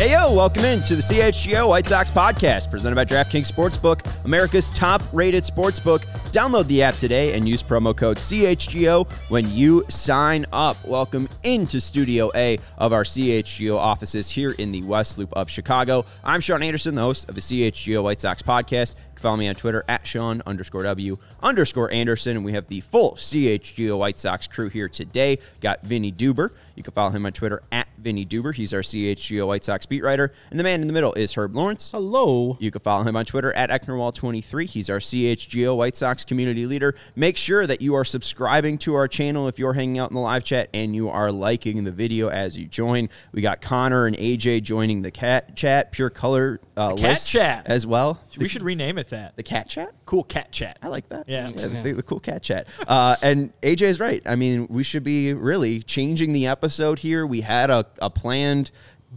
Hey, yo, welcome into the CHGO White Sox podcast presented by DraftKings Sportsbook, America's top-rated sportsbook. Download the app today and use promo code CHGO when you sign up. Welcome into Studio A of our CHGO offices here in the West Loop of Chicago. I'm Sean Anderson, the host of the CHGO White Sox podcast. You can follow me on Twitter at Sean_W_Anderson, and we have the full CHGO White Sox crew here today. Got Vinny Duber. You can follow him on Twitter at Vinny Duber. He's our CHGO White Sox beat writer. And the man in the middle is Herb Lawrence. Hello. You can follow him on Twitter at Ecknerwall23. He's our CHGO White Sox community leader. Make sure that you are subscribing to our channel if you're hanging out in the live chat and you are liking the video as you join. We got Connor and AJ joining the cat chat, Pure Color list chat as well. We should rename it that. The cat chat? Cool cat chat. I like that. Yeah. The cool cat chat. And AJ is right. I mean, we should be really changing the episode here. We had a planned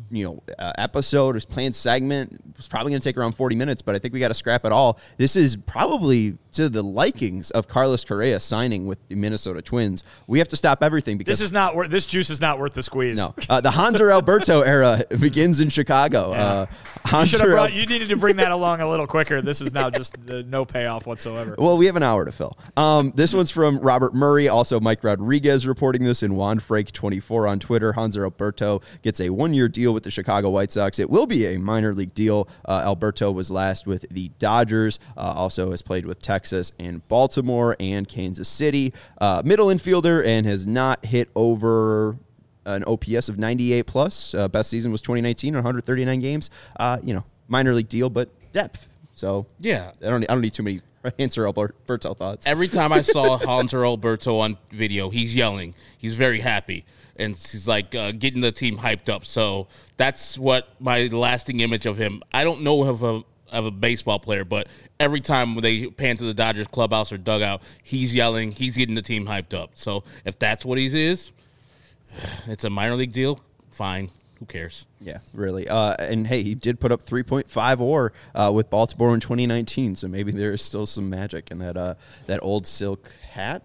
episode or planned segment. It was probably going to take around 40 minutes, but I think we got to scrap it all. This is probably to the likings of Carlos Correa signing with the Minnesota Twins. We have to stop everything because this juice is not worth the squeeze. No, the Hanser Alberto era begins in Chicago. Yeah. You needed to bring that along a little quicker. This is now just no payoff whatsoever. Well, we have an hour to fill. This one's from Robert Murray, also Mike Rodriguez reporting this, and Juan Frank 24 on Twitter. Hanser Alberto gets a one-year deal with the Chicago White Sox. It will be a minor league deal. Alberto was last with the Dodgers, also has played with Texas and Baltimore and Kansas City. Middle infielder and has not hit over an OPS of 98 plus. Best season was 2019, 139 games. Minor league deal, but depth. So yeah, I don't need too many Hanser Alberto thoughts. Every time I saw Hanser Alberto on video, he's yelling. He's very happy. And he's like getting the team hyped up. So that's what my lasting image of him. I don't know of a baseball player, but every time when they pan to the Dodgers clubhouse or dugout, he's yelling. He's getting the team hyped up. So if that's what he is, it's a minor league deal. Fine. Who cares? Yeah, really. And, hey, he did put up 3.5 WAR with Baltimore in 2019, so maybe there is still some magic in that old silk hat.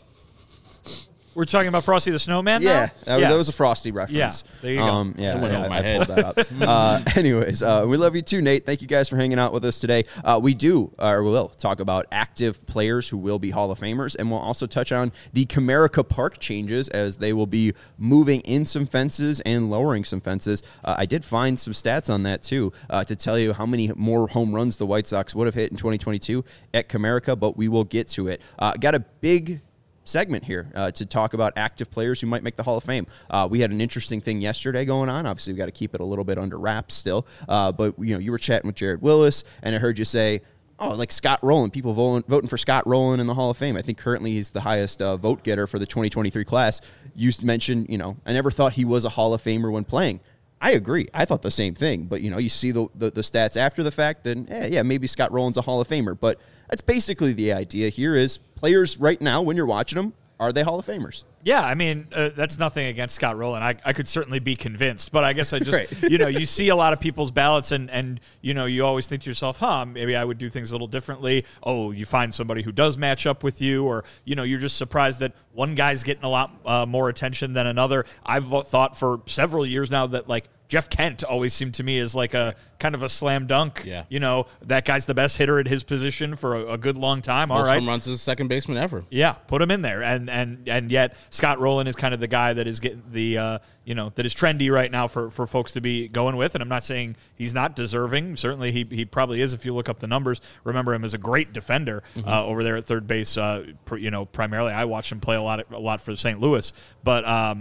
We're talking about Frosty the Snowman now? Yeah. That was a Frosty reference. Yeah, there you go. I pulled that up. Anyways, we love you too, Nate. Thank you guys for hanging out with us today. We will talk about active players who will be Hall of Famers, and we'll also touch on the Comerica Park changes as they will be moving in some fences and lowering some fences. I did find some stats on that too to tell you how many more home runs the White Sox would have hit in 2022 at Comerica, but we will get to it. Got a big segment here to talk about active players who might make the Hall of Fame. We had an interesting thing yesterday going on. Obviously, we got to keep it a little bit under wraps still. But you were chatting with Jared Willis, and I heard you say, like Scott Rowland, people voting for Scott Rowland in the Hall of Fame. I think currently he's the highest vote getter for the 2023 class. You mentioned, I never thought he was a Hall of Famer when playing. I agree. I thought the same thing. But, you see the stats after the fact, then, maybe Scott Rowland's a Hall of Famer. But that's basically the idea here is players right now, when you're watching them, are they Hall of Famers? Yeah, I mean, that's nothing against Scott Rowland. I could certainly be convinced, but I guess I just, right. You see a lot of people's ballots and you always think to yourself, maybe I would do things a little differently. Oh, you find somebody who does match up with you, or, you're just surprised that one guy's getting a lot more attention than another. I've thought for several years now that, like, Jeff Kent always seemed to me as like a kind of a slam dunk. Yeah. That guy's the best hitter at his position for a good long time. All right. Most home runs as a second baseman ever. Yeah, put him in there. And yet Scott Rowland is kind of the guy that is getting the that is trendy right now for folks to be going with. And I'm not saying he's not deserving. Certainly he probably is if you look up the numbers. Remember him as a great defender over there at third base. Primarily I watched him play a lot for St. Louis. But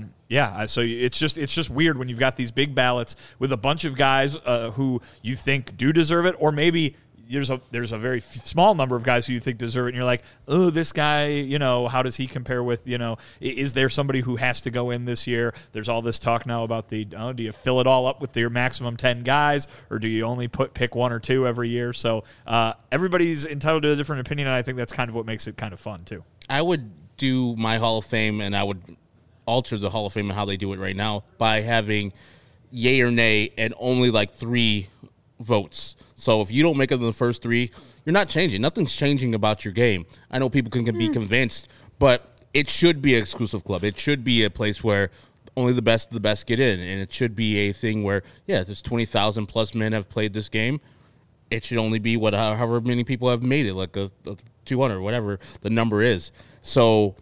so it's just weird when you've got these big ballots with a bunch of guys who you think do deserve it, or maybe there's a very small number of guys who you think deserve it, and you're like, oh, this guy, how does he compare with, is there somebody who has to go in this year? There's all this talk now about do you fill it all up with your maximum 10 guys, or do you only pick one or two every year? So everybody's entitled to a different opinion, and I think that's kind of what makes it kind of fun too. I would do my Hall of Fame, and I would alter the Hall of Fame and how they do it right now by having yay or nay and only like 3 votes. So if you don't make it in the first 3, you're not changing. Nothing's changing about your game. I know people can be convinced, but it should be an exclusive club. It should be a place where only the best of the best get in, and it should be a thing where, yeah, there's 20,000 plus men have played this game. It should only be however many people have made it, like a 200, whatever the number is. So,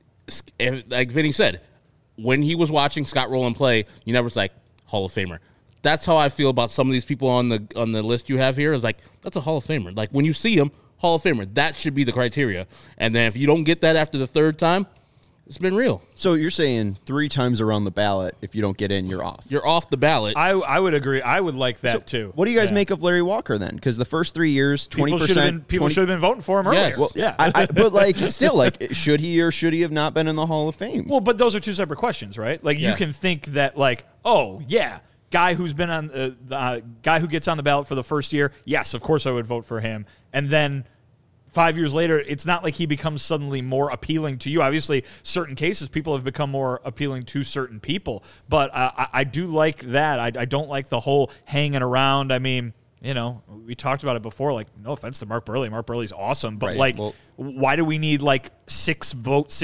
like Vinny said, when he was watching Scott Rowland play, you never was like Hall of Famer. That's how I feel about some of these people on the list you have here. Is like, that's a Hall of Famer. Like, when you see him, Hall of Famer. That should be the criteria. And then if you don't get that after the third time, it's been real. So you're saying 3 times around the ballot, if you don't get in, you're off. You're off the ballot. I would agree. I would like that too. What do you guys make of Larry Walker then? Because the first 3 years, 20%. People should have been voting for him earlier. Yes. Well, Yeah. but like, still, like, should he or should he have not been in the Hall of Fame? Well, but those are two separate questions, right? Like, you can think that, like, oh, yeah, guy who's been on the guy who gets on the ballot for the first year, yes, of course I would vote for him. And then 5 years later, it's not like he becomes suddenly more appealing to you. Obviously, certain cases, people have become more appealing to certain people. But I do like that. I don't like the whole hanging around. I mean, you know, we talked about it before. Like, no offense to Mark Buehrle. Mark Buehrle's awesome. But, why do we need, like, 7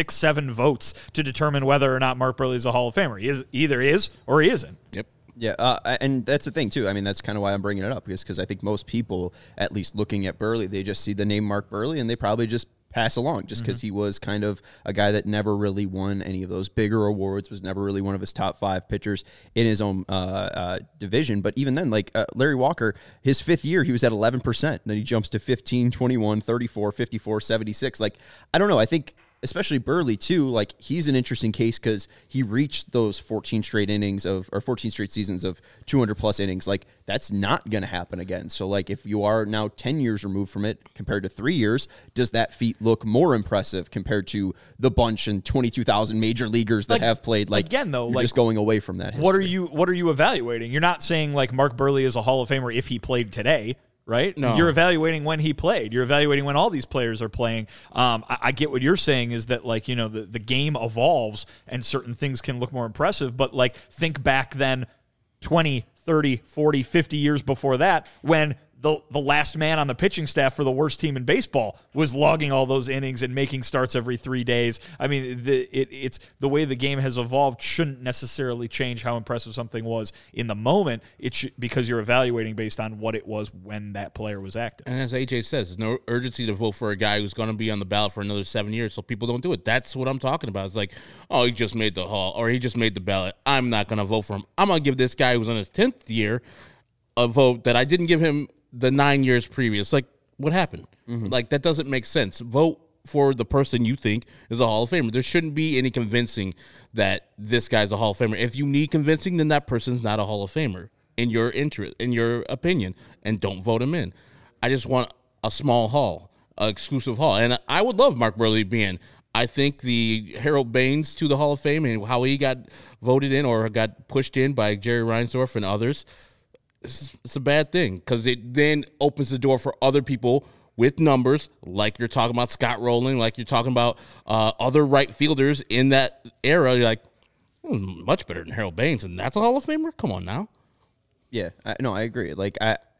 votes to determine whether or not Mark Buehrle's a Hall of Famer? He either is or he isn't. Yep. Yeah, and that's the thing, too. I mean, that's kind of why I'm bringing it up, because I think most people, at least looking at Buehrle, they just see the name Mark Buehrle, and they probably just pass along just because he was kind of a guy that never really won any of those bigger awards, was never really one of his top 5 pitchers in his own division. But even then, like Larry Walker, his 5th year, he was at 11%. Then he jumps to 15, 21, 34, 54, 76. Like, I don't know. I think especially Buehrle too, like, he's an interesting case because he reached those 14 straight seasons of 200 plus innings. Like, that's not going to happen again. So, like, if you are now 10 years removed from it compared to 3 years, does that feat look more impressive compared to the bunch and 22,000 major leaguers that have played? Like, again, though, like, just going away from that history. What are you evaluating? You're not saying, like, Mark Buehrle is a Hall of Famer if he played today. Right? No. You're evaluating when he played. You're evaluating when all these players are playing. I get what you're saying is that, like, you know, the game evolves and certain things can look more impressive. But, like, think back then 20, 30, 40, 50 years before that when the last man on the pitching staff for the worst team in baseball was logging all those innings and making starts every 3 days. I mean, it's the way the game has evolved shouldn't necessarily change how impressive something was in the moment. Because you're evaluating based on what it was when that player was active. And as AJ says, there's no urgency to vote for a guy who's going to be on the ballot for another 7 years, so people don't do it. That's what I'm talking about. It's like, oh, he just made the Hall, or he just made the ballot. I'm not going to vote for him. I'm going to give this guy who's on his 10th year a vote that I didn't give him the 9 years previous. Like, what happened? Like, that doesn't make sense. Vote for the person you think is a Hall of Famer. There shouldn't be any convincing that this guy's a Hall of Famer. If you need convincing, then that person's not a Hall of Famer in your interest, in your opinion, and don't vote him in. I just want a small hall, an exclusive hall. And I would love Mark Buehrle being. I think the Harold Baines to the Hall of Fame and how he got voted in or got pushed in by Jerry Reinsdorf and others, it's a bad thing because it then opens the door for other people with numbers, like you're talking about Scott Rowland, like you're talking about other right fielders in that era. You're like, much better than Harold Baines, and that's a Hall of Famer? Come on now. Yeah, I agree. Like,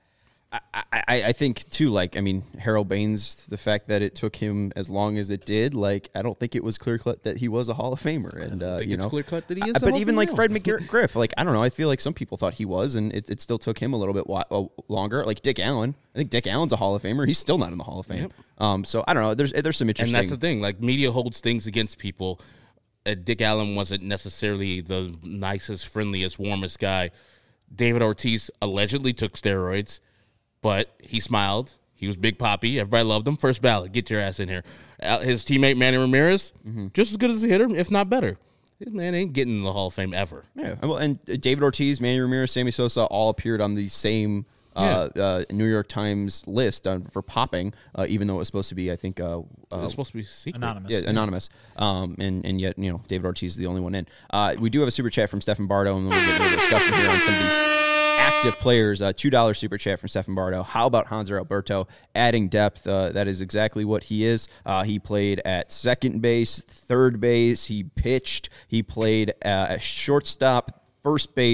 I think, too, like, I mean, Harold Baines, the fact that it took him as long as it did, like, I don't think it was clear-cut that he was a Hall of Famer. And, I think you it's know, clear-cut that he is a but Hall of even, Famer like, now. Fred McGriff, like, I don't know. I feel like some people thought he was, and it still took him a little bit longer. Like, Dick Allen. I think Dick Allen's a Hall of Famer. He's still not in the Hall of Fame. Yep. So, I don't know. There's some interesting... And that's the thing. Like, media holds things against people. Dick Allen wasn't necessarily the nicest, friendliest, warmest guy. David Ortiz allegedly took steroids, but he smiled. He was Big Papi. Everybody loved him. First ballot. Get your ass in here. His teammate, Manny Ramirez, just as good as a hitter, if not better. This man ain't getting in the Hall of Fame ever. Yeah. Well, and David Ortiz, Manny Ramirez, Sammy Sosa all appeared on the same New York Times list for popping, even though it was supposed to be, I think... It's supposed to be secret. Anonymous. Yeah, anonymous. And yet, you know, David Ortiz is the only one in. We do have a super chat from Stephen Bardo, and then we'll get into a discussion here on some of these active players. $2 super chat from Stephen Bardo. How about Hanser Alberto adding depth? That is exactly what he is. He played at second base, third base. He pitched. He played at shortstop, first base,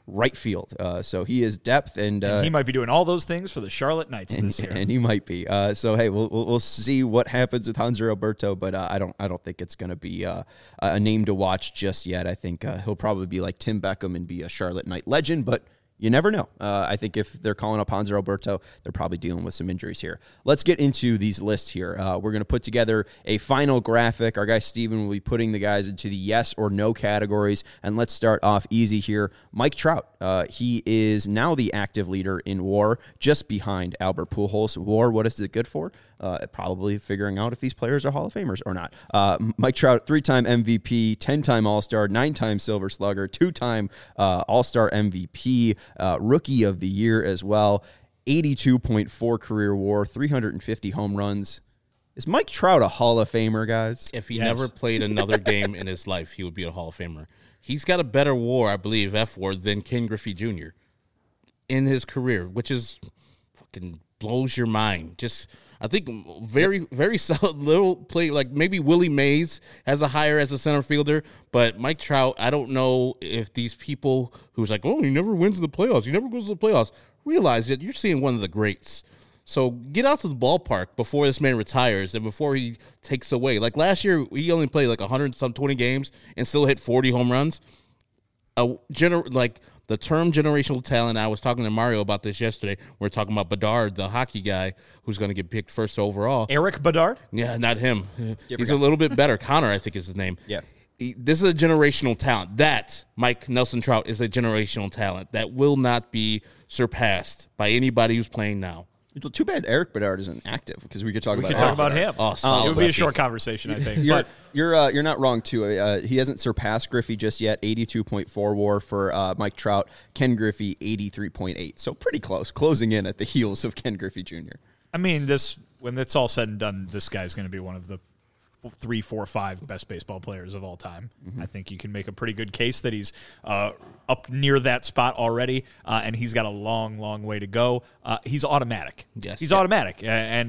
right field. So he is depth, and he might be doing all those things for the Charlotte Knights this year. And he might be. So hey, we'll see what happens with Hanser Alberto, but I don't think it's going to be a name to watch just yet. I think he'll probably be like Tim Beckham and be a Charlotte Knight legend, but you never know. I think if they're calling up Hanser Alberto, they're probably dealing with some injuries here. Let's get into these lists here. We're going to put together a final graphic. Our guy Steven will be putting the guys into the yes or no categories. And let's start off easy here. Mike Trout. He is now the active leader in WAR, just behind Albert Pujols. WAR, what is it good for? Probably figuring out if these players are Hall of Famers or not. Mike Trout, 3-time MVP, 10-time All-Star, 9-time Silver Slugger, 2-time All-Star MVP, Rookie of the Year as well, 82.4 career WAR, 350 home runs. Is Mike Trout a Hall of Famer, guys? If he never played another game in his life, he would be a Hall of Famer. He's got a better WAR, I believe, F-WAR, than Ken Griffey Jr. in his career, which is fucking blows your mind. Just, I think very, very solid little play. Like maybe Willie Mays has a higher as a center fielder, but Mike Trout, I don't know if these people who's like, oh, he never wins the playoffs, he never goes to the playoffs, realize that you're seeing one of the greats. So get out to the ballpark before this man retires and before he takes away. Like last year, he only played like 120 games and still hit 40 home runs. Like the term generational talent, I was talking to Mario about this yesterday. We're talking about Bedard, the hockey guy who's going to get picked first overall. Eric Bedard? Yeah, not him. He's a little bit better. Connor, I think is his name. Yeah. This is a generational talent. That, Mike Nelson Trout, is a generational talent that will not be surpassed by anybody who's playing now. Well, too bad Eric Bedard isn't active because we could talk about him. Oh, it would be a short conversation, I think. You're not wrong too. He hasn't surpassed Griffey just yet. 82.4 WAR for Mike Trout. Ken Griffey 83.8. So pretty close, closing in at the heels of Ken Griffey Jr. I mean, when it's all said and done, this guy's going to be one of the 3, 4, 5 best baseball players of all time. Mm-hmm. I think you can make a pretty good case that he's up near that spot already, and he's got a long, long way to go. He's automatic. Yes, he's automatic, and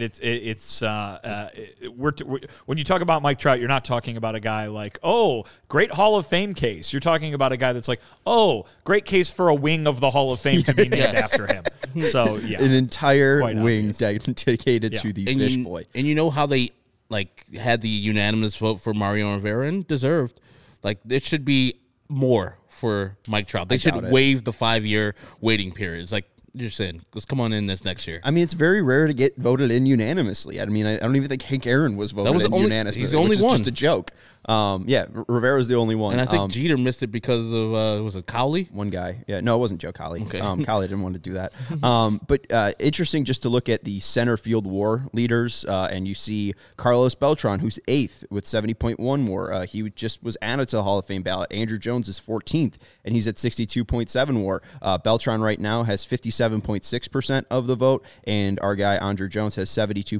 when you talk about Mike Trout, you're not talking about a guy like, oh, great Hall of Fame case. You're talking about a guy that's like, oh, great case for a wing of the Hall of Fame to be named after him. So yeah, an entire wing dedicated to the fish boy. And you know how they had the unanimous vote for Mario Rivera, and deserved. Like, it should be more for Mike Trout. They should waive the 5-year waiting period. It's like, you're saying, let's come on in this next year. I mean, it's very rare to get voted in unanimously. I mean, I don't even think Hank Aaron was voted in unanimously. He's the only one. Which is just a joke. Rivera's the only one. And I think Jeter missed it because of, was it Cowley? One guy. Yeah, no, it wasn't Joe Cowley. Okay. Cowley didn't want to do that. But interesting just to look at the center field WAR leaders, and you see Carlos Beltran, who's 8th with 70.1 WAR. He just was added to the Hall of Fame ballot. Andrew Jones is 14th, and he's at 62.7 WAR. Beltran right now has 57.6% of the vote, and our guy Andrew Jones has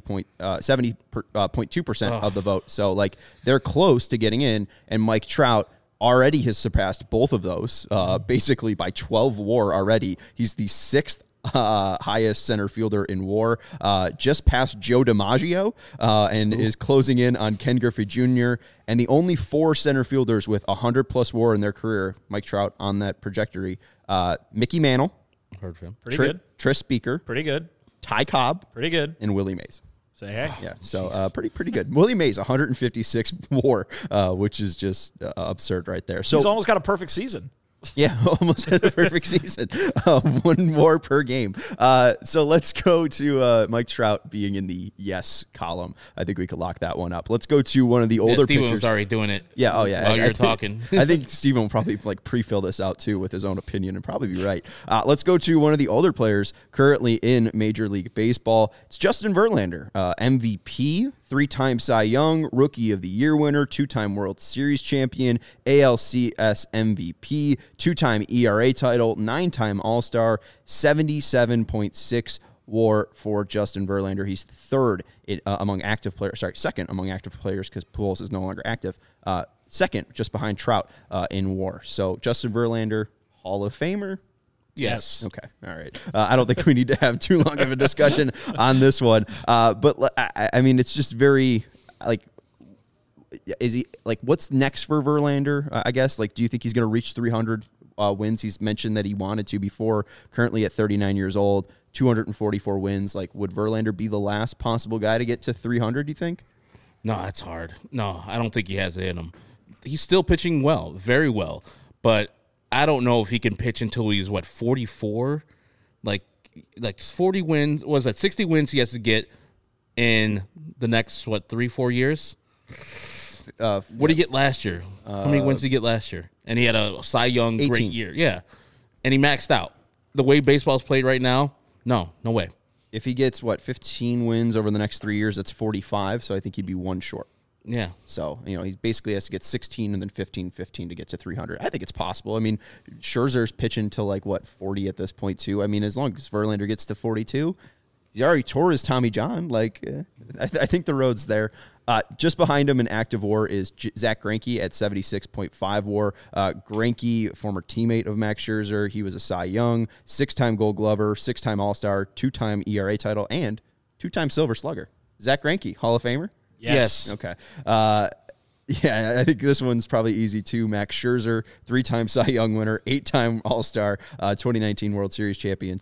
70.2% of the vote. So, like, they're close to getting in, and Mike Trout already has surpassed both of those, basically by 12 WAR already. He's the 6th highest center fielder in WAR, just past Joe DiMaggio, and is closing in on Ken Griffey Jr. And the only 4 center fielders with 100-plus WAR in their career, Mike Trout on that trajectory, Mickey Mantle, heard from pretty good, Tris Speaker, pretty good, Ty Cobb, pretty good, and Willie Mays. Say hey. Yeah, so pretty good. Willie Mays, 156 WAR, which is just absurd right there. So he's almost got a perfect season. Yeah, almost had a perfect season. 1 WAR per game. So let's go to Mike Trout being in the yes column. I think we could lock that one up. Let's go to one of the older Steven pitchers. was already doing it. Yeah, oh yeah. While you're talking. I think Steven will probably pre-fill this out too with his own opinion and probably be right. Let's go to one of the older players currently in Major League Baseball. It's Justin Verlander, MVP, 3-time Cy Young, Rookie of the Year winner, 2-time World Series champion, ALCS MVP, 2-time ERA title, 9-time All-Star, 77.6 WAR for Justin Verlander. He's third among active players. Sorry, second among active players because Pujols is no longer active. Second, just behind Trout in WAR. So Justin Verlander, Hall of Famer. Yes. Okay. All right. I don't think we need to have too long of a discussion on this one. But I mean, it's just very is he what's next for Verlander? I guess do you think he's going to reach 300 wins he's mentioned that he wanted to before, currently at 39 years old, 244 wins. Like, would Verlander be the last possible guy to get to 300, do you think? No, that's hard. No, I don't think he has it in him. He's still pitching well, very well, but I don't know if he can pitch until he's, 44? Like 40 wins, was that 60 wins he has to get in the next, 3-4 years? What did he get last year? How many wins did he get last year? And he had a Cy Young 18. great year. Yeah. And he maxed out. The way baseball's played right now, no way. If he gets, 15 wins over the next 3 years, that's 45, so I think he'd be one short. Yeah. So, he basically has to get 16 and then 15 to get to 300. I think it's possible. I mean, Scherzer's pitching to 40 at this point too. I mean, as long as Verlander gets to 42, he already tore his Tommy John. I think the road's there. Just behind him in active WAR is Zach Greinke at 76.5 WAR. Greinke, former teammate of Max Scherzer, he was a Cy Young, 6-time Gold Glover, 6-time All-Star, 2-time ERA title, and 2-time Silver Slugger. Zach Greinke, Hall of Famer? Yes. Okay. Yeah, I think this one's probably easy too. Max Scherzer, 3-time Cy Young winner, 8-time All-Star, 2019 World Series champion,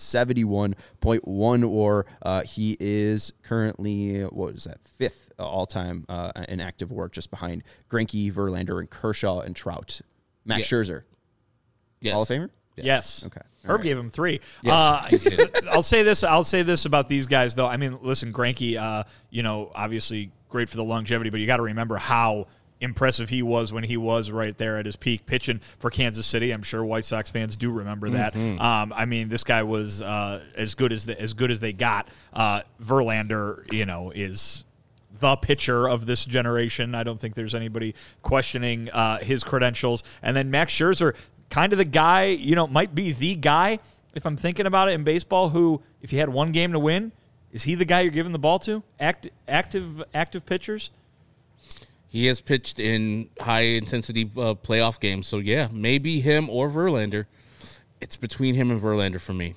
71.1 WAR. He is currently, 5th all-time in active WAR, just behind Greinke, Verlander, and Kershaw and Trout. Max Scherzer, Yes. Hall of Famer? Yes. Okay. Herb gave him 3. Yes. I'll say this about these guys, though. I mean, listen, Greinke, obviously great for the longevity, but you got to remember how impressive he was when he was right there at his peak pitching for Kansas City. I'm sure White Sox fans do remember that. I mean, this guy was as good as they got. Verlander, is the pitcher of this generation. I don't think there's anybody questioning his credentials. And then Max Scherzer, kind of the guy, might be the guy, if I'm thinking about it in baseball, who, if you had one game to win, is he the guy you're giving the ball to? Active pitchers? He has pitched in high-intensity playoff games, so yeah, maybe him or Verlander. It's between him and Verlander for me.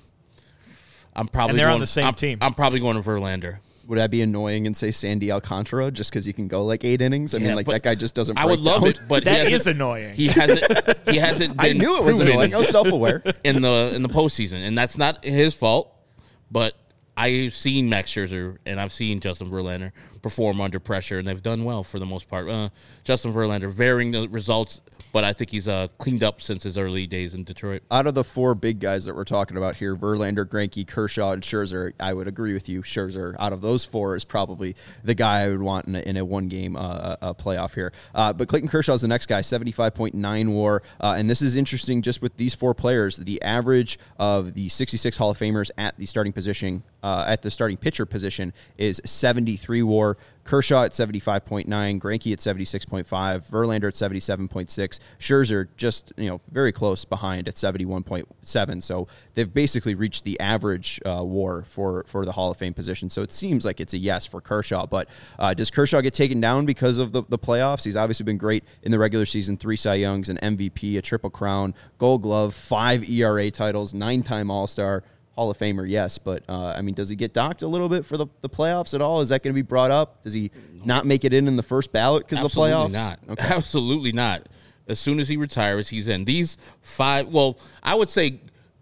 And they're on the same team. I'm probably going to Verlander. Would I be annoying and say Sandy Alcantara just because you can go 8 innings? I mean, that guy just doesn't break I would love down. it, but that is annoying. He hasn't been I knew it was proven annoying. I was self-aware. in the postseason, and that's not his fault, but I've seen Max Scherzer and I've seen Justin Verlander perform under pressure, and they've done well for the most part. Justin Verlander, varying the results, but I think he's cleaned up since his early days in Detroit. Out of the 4 big guys that we're talking about here, Verlander, Greinke, Kershaw, and Scherzer, I would agree with you. Scherzer, out of those 4, is probably the guy I would want in a one-game playoff here. But Clayton Kershaw is the next guy, 75.9 WAR. And this is interesting just with these 4 players. The average of the 66 Hall of Famers at the starting position, at the starting pitcher position, is 73 WAR. Kershaw at 75.9, Greinke at 76.5, Verlander at 77.6, Scherzer just very close behind at 71.7. So they've basically reached the average WAR for the Hall of Fame position. So it seems like it's a yes for Kershaw. But does Kershaw get taken down because of the playoffs? He's obviously been great in the regular season: 3 Cy Youngs, an MVP, a Triple Crown, Gold Glove, 5 ERA titles, 9-time All-Star. Hall of Famer, yes, but does he get docked a little bit for the playoffs at all? Is that going to be brought up? Does he not make it in the first ballot because of the playoffs? Not. Okay. Absolutely not. As soon as he retires, he's in. These 5, well, I would say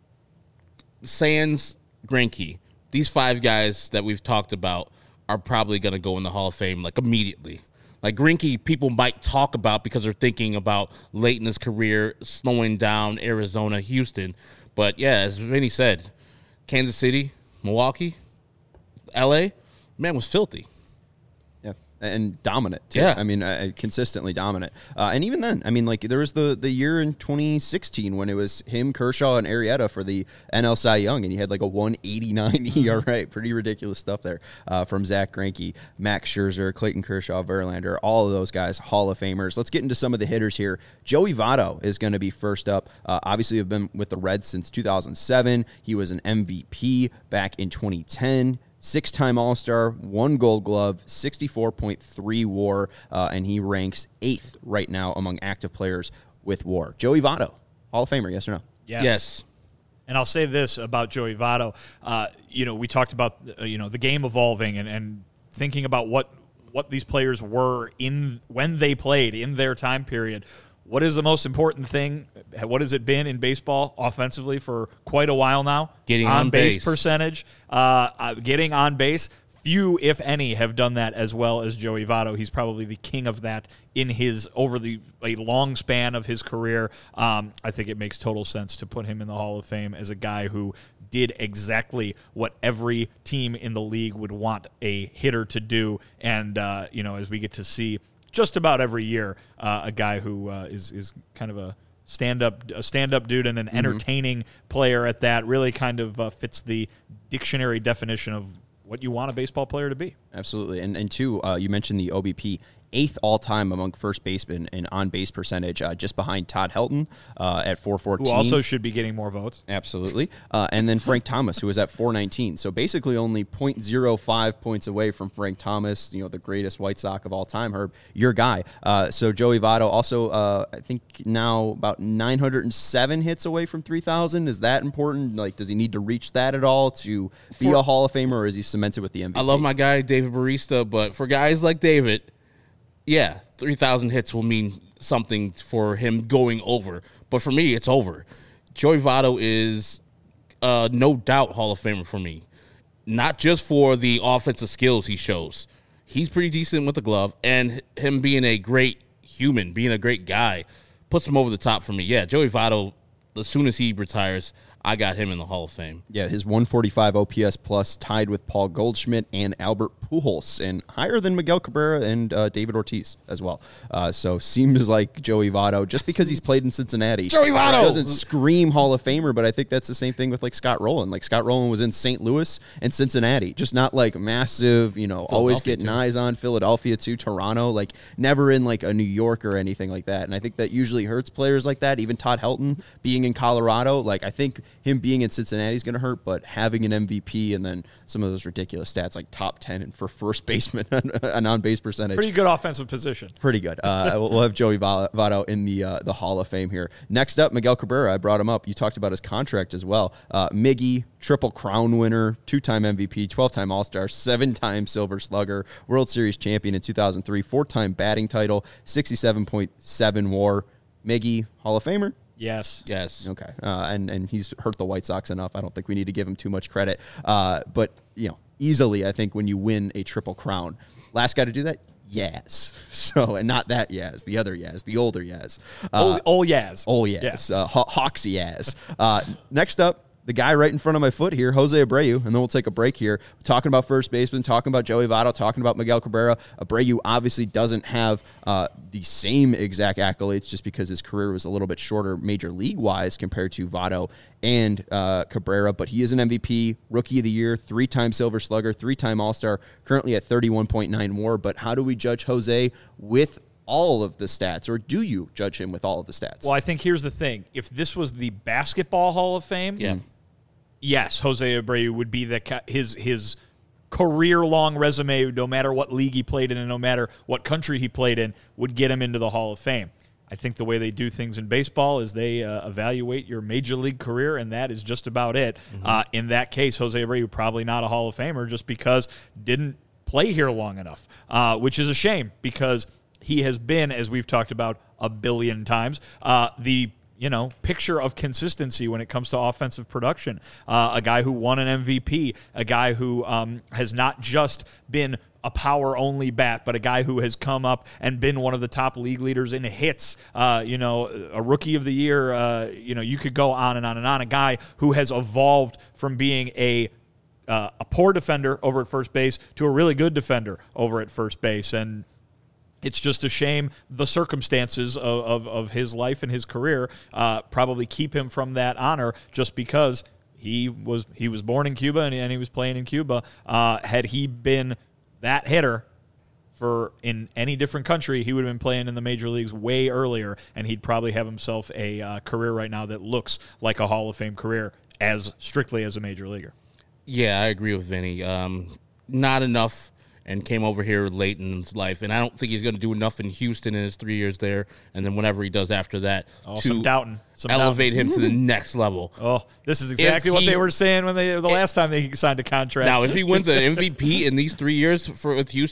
Sands, Greinke, these 5 guys that we've talked about are probably going to go in the Hall of Fame immediately. Greinke, people might talk about because they're thinking about late in his career, slowing down Arizona, Houston. But yeah, as Vinny said, Kansas City, Milwaukee, L.A., man was filthy. Yeah, and dominant, too. Yeah. Consistently dominant. And even then, there was the year in 2016 when it was him, Kershaw, and Arrieta for the NL Cy Young, and he had a 189 ERA. Pretty ridiculous stuff there from Zach Greinke, Max Scherzer, Clayton Kershaw, Verlander, all of those guys, Hall of Famers. Let's get into some of the hitters here. Joey Votto is going to be first up. Obviously, have been with the Reds since 2007. He was an MVP back in 2010. 6-time All-Star, 1 Gold Glove, 64.3 WAR, and he ranks 8th right now among active players with WAR. Joey Votto, Hall of Famer, yes or no? Yes. And I'll say this about Joey Votto. We talked about the game evolving and thinking about what these players were when they played in their time period. What is the most important thing what has it been in baseball offensively for quite a while now? Getting on base percentage, getting on base. Few, if any, have done that as well as Joey Votto. He's probably the king of that in his a long span of his career. I think it makes total sense to put him in the Hall of Fame as a guy who did exactly what every team in the league would want a hitter to do. And as we get to see just about every year, a guy who is kind of a stand-up dude and an entertaining player at that, really kind of fits the dictionary definition of what you want a baseball player to be. Absolutely. And two, you mentioned the OBP, 8th all-time among first basemen in on-base percentage, just behind Todd Helton at 414. Who also should be getting more votes. Absolutely. And then Frank Thomas, who was at 419. So basically only 0.05 points away from Frank Thomas, the greatest White Sox of all time, Herb, your guy. So Joey Votto also, I think now about 907 hits away from 3,000. Is that important? Like, does he need to reach that at all to be a Hall of Famer, or is he cemented with the MVP? I love my guy, David Barista, but for guys like David, yeah, 3,000 hits will mean something for him going over. But for me, it's over. Joey Votto is no doubt Hall of Famer for me. Not just for the offensive skills he shows. He's pretty decent with the glove, and him being a great human, being a great guy, puts him over the top for me. Yeah, Joey Votto, as soon as he retires, I got him in the Hall of Fame. Yeah, his 145 OPS plus tied with Paul Goldschmidt and Albert Pujols, and higher than Miguel Cabrera and David Ortiz as well. So seems like Joey Votto, just because he's played in Cincinnati, Joey Votto doesn't scream Hall of Famer, but I think that's the same thing with like Scott Rowland. Like Scott Rowland was in St. Louis and Cincinnati, just not like massive, always getting eyes on. Philadelphia too, Toronto, like never in like a New York or anything like that. And I think that usually hurts players like that. Even Todd Helton being in Colorado, like I think him being in Cincinnati is going to hurt, but having an MVP and then some of those ridiculous stats like top 10 and for first baseman an on-base percentage. Pretty good offensive position. Pretty good. We'll have Joey Votto in the Hall of Fame here. Next up, Miguel Cabrera. I brought him up. You talked about his contract as well. Miggy, Triple Crown winner, 2-time MVP, 12-time All-Star, 7-time Silver Slugger, World Series champion in 2003, 4-time batting title, 67.7 WAR. Miggy, Hall of Famer? Yes. Okay. And he's hurt the White Sox enough. I don't think we need to give him too much credit. But, easily, I think when you win a Triple Crown, last guy to do that, Yaz. So, and not that Yaz, the other Yaz, the older Yaz. Old Yaz. Yeah. Hawks Yaz. Next up, the guy right in front of my foot here, Jose Abreu, and then we'll take a break here. We're talking about first baseman, talking about Joey Votto, talking about Miguel Cabrera. Abreu obviously doesn't have the same exact accolades just because his career was a little bit shorter major league-wise compared to Votto and Cabrera, but he is an MVP, Rookie of the Year, 3-time Silver Slugger, 3-time All-Star, currently at 31.9 WAR. But how do we judge Jose with all of the stats, or do you judge him with all of the stats? Well, I think here's the thing. If this was the Basketball Hall of Fame, yes, Jose Abreu would be his career-long resume, no matter what league he played in and no matter what country he played in, would get him into the Hall of Fame. I think the way they do things in baseball is they evaluate your major league career, and that is just about it. In that case, Jose Abreu probably not a Hall of Famer just because didn't play here long enough, which is a shame because he has been, as we've talked about a billion times, the picture of consistency when it comes to offensive production. A guy who won an MVP, a guy who has not just been a power-only bat, but a guy who has come up and been one of the top league leaders in hits, a Rookie of the Year, you could go on and on and on. A guy who has evolved from being a poor defender over at first base to a really good defender over at first base. And it's just a shame the circumstances of his life and his career probably keep him from that honor just because he was born in Cuba and he was playing in Cuba. Had he been that hitter in any different country, he would have been playing in the major leagues way earlier, and he'd probably have himself a career right now that looks like a Hall of Fame career as strictly as a major leaguer. Yeah, I agree with Vinny. Not enough, and came over here late in his life. And I don't think he's going to do enough in Houston in his 3 years there, and then whenever he does after that, to elevate him to the next level. Oh, this is exactly what they were saying when the last time they signed a contract. Now, if he wins an MVP in these 3 years with Houston,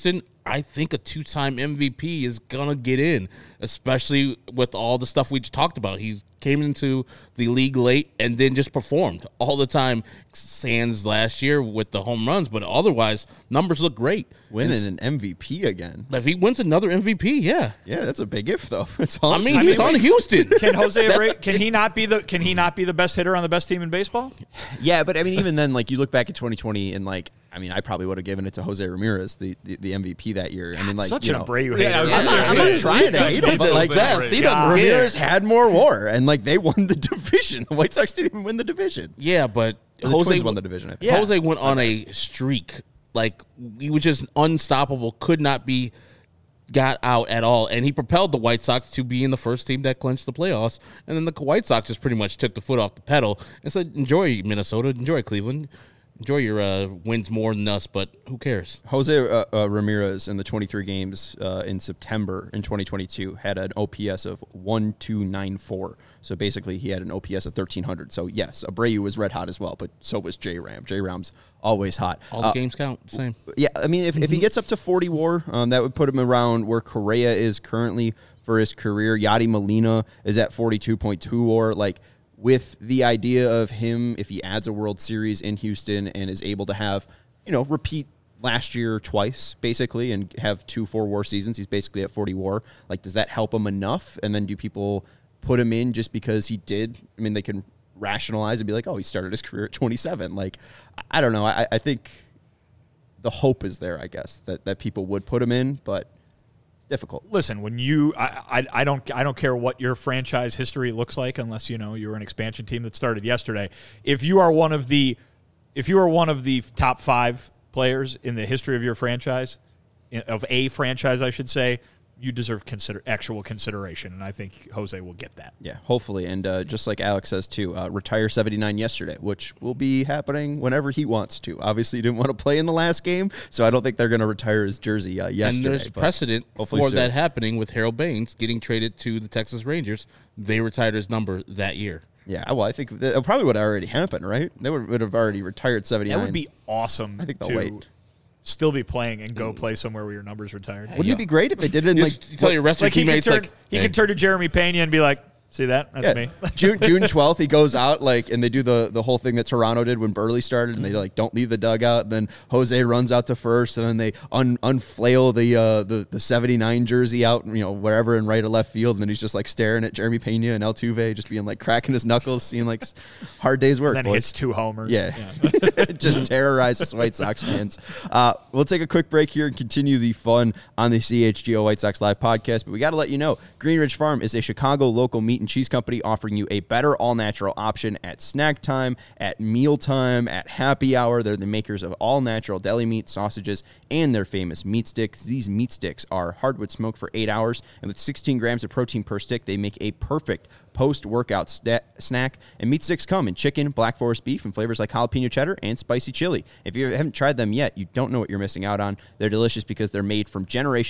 I think a 2-time MVP is going to get in, especially with all the stuff we just talked about. He came into the league late and then just performed all the time, sans last year with the home runs, but otherwise, numbers look great. Winning an MVP again. If he wins another MVP, yeah. Yeah, that's a big if, though. It's all I mean, he's on Houston. Can Jose Abreu, can he not be the best hitter on the best team in baseball? Yeah, but I mean, even then, like, you look back at 2020 and, like, I mean, I probably would have given it to Jose Ramirez, the MVP that year. I mean, like, such you an know, Abreu hater. I'm not trying to hate him, but like that, He doesn't Ramirez care. had more WAR, and like they won the division. The White Sox didn't even win the division. Yeah, but The Jose Twins won the division. I think. Yeah. Jose went on a streak. Like, he was just unstoppable, could not be got out at all. And he propelled the White Sox to being the first team that clinched the playoffs. And then the White Sox just pretty much took the foot off the pedal and said, enjoy Minnesota, enjoy Cleveland, enjoy your wins more than us, but who cares? Jose Ramirez in the 23 games in September in 2022 had an OPS of 1,294. So basically, he had an OPS of 1,300. So yes, Abreu was red hot as well, but so was J-Ram. J-Ram's always hot. All the games count, same. Yeah, I mean, if he gets up to 40 WAR, that would put him around where Correa is currently for his career. Yadi Molina is at 42.2 WAR. Like, with the idea of him, if he adds a World Series in Houston and is able to have, repeat last year twice, basically, and have 2 4-WAR seasons, he's basically at 40 WAR. Like, does that help him enough? And then do people put him in just because he did? I mean, they can rationalize and be like, oh, he started his career at 27. Like, I don't know. I think the hope is there, I guess, that people would put him in, but it's difficult. Listen, when I don't care what your franchise history looks like, unless you're an expansion team that started yesterday. If you are one of the top 5 players in the history of your franchise, of a franchise, I should say, you deserve actual consideration, and I think Jose will get that. Yeah, hopefully. And just like Alex says, too, retire 79 yesterday, which will be happening whenever he wants to. Obviously, he didn't want to play in the last game, so I don't think they're going to retire his jersey yesterday. And there's precedent for soon. that happening with Harold Baines getting traded to the Texas Rangers. They retired his number that year. Yeah, well, I think that probably would have already happened, right? They would have already retired 79. That would be awesome. I think they'll wait. Still be playing and go play somewhere where your number's retired. Wouldn't it be great if they did it in You tell your rest of your teammates, he can turn to Jeremy Pena and be like, see that? That's me. June 12th, he goes out and they do the whole thing that Toronto did when Burley started, and they don't leave the dugout. And then Jose runs out to first, and then they unflail the 79 jersey out, wherever in right or left field, and then he's just staring at Jeremy Pena and Altuve, just being cracking his knuckles, seeing hard day's work. And then hits 2 homers. Yeah. Just terrorizes White Sox fans. We'll take a quick break here and continue the fun on the CHGO White Sox Live podcast. But we got to let you know, Green Ridge Farm is a Chicago local meat and cheese company offering you a better all-natural option at snack time, at mealtime, at happy hour. They're the makers of all-natural deli meat, sausages, and their famous meat sticks. These meat sticks are hardwood smoked for 8 hours, and with 16 grams of protein per stick, they make a perfect post-workout snack. And meat sticks come in chicken, black forest beef, and flavors like jalapeno cheddar and spicy chili. If you haven't tried them yet, you don't know what you're missing out on. They're delicious because they're made from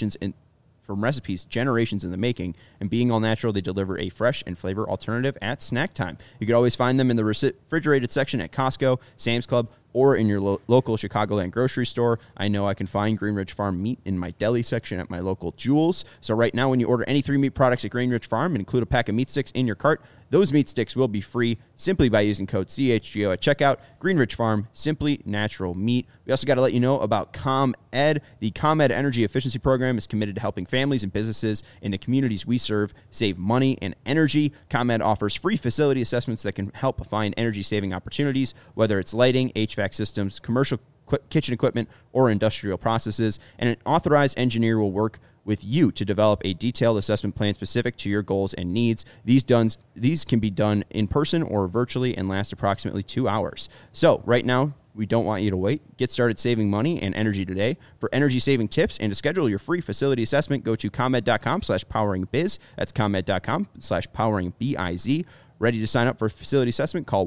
recipes generations in the making, and being all natural, they deliver a fresh and flavor alternative at snack time. You can always find them in the refrigerated section at Costco, Sam's Club, or in your local Chicagoland grocery store. I know I can find Green Ridge Farm meat in my deli section at my local Jewel's. So right now, when you order any 3 meat products at Green Ridge Farm and include a pack of meat sticks in your cart, those meat sticks will be free simply by using code CHGO at checkout. Green Ridge Farm, simply natural meat. We also got to let you know about ComEd. The ComEd Energy Efficiency Program is committed to helping families and businesses in the communities we serve save money and energy. ComEd offers free facility assessments that can help find energy-saving opportunities, whether it's lighting, HVAC systems, commercial kitchen equipment, or industrial processes. And an authorized engineer will work with you to develop a detailed assessment plan specific to your goals and needs. These can be done in person or virtually and last approximately 2 hours. So right now, we don't want you to wait. Get started saving money and energy today. For energy-saving tips and to schedule your free facility assessment, go to ComEd.com/poweringbiz. That's ComEd.com/poweringbiz. Ready to sign up for a facility assessment? Call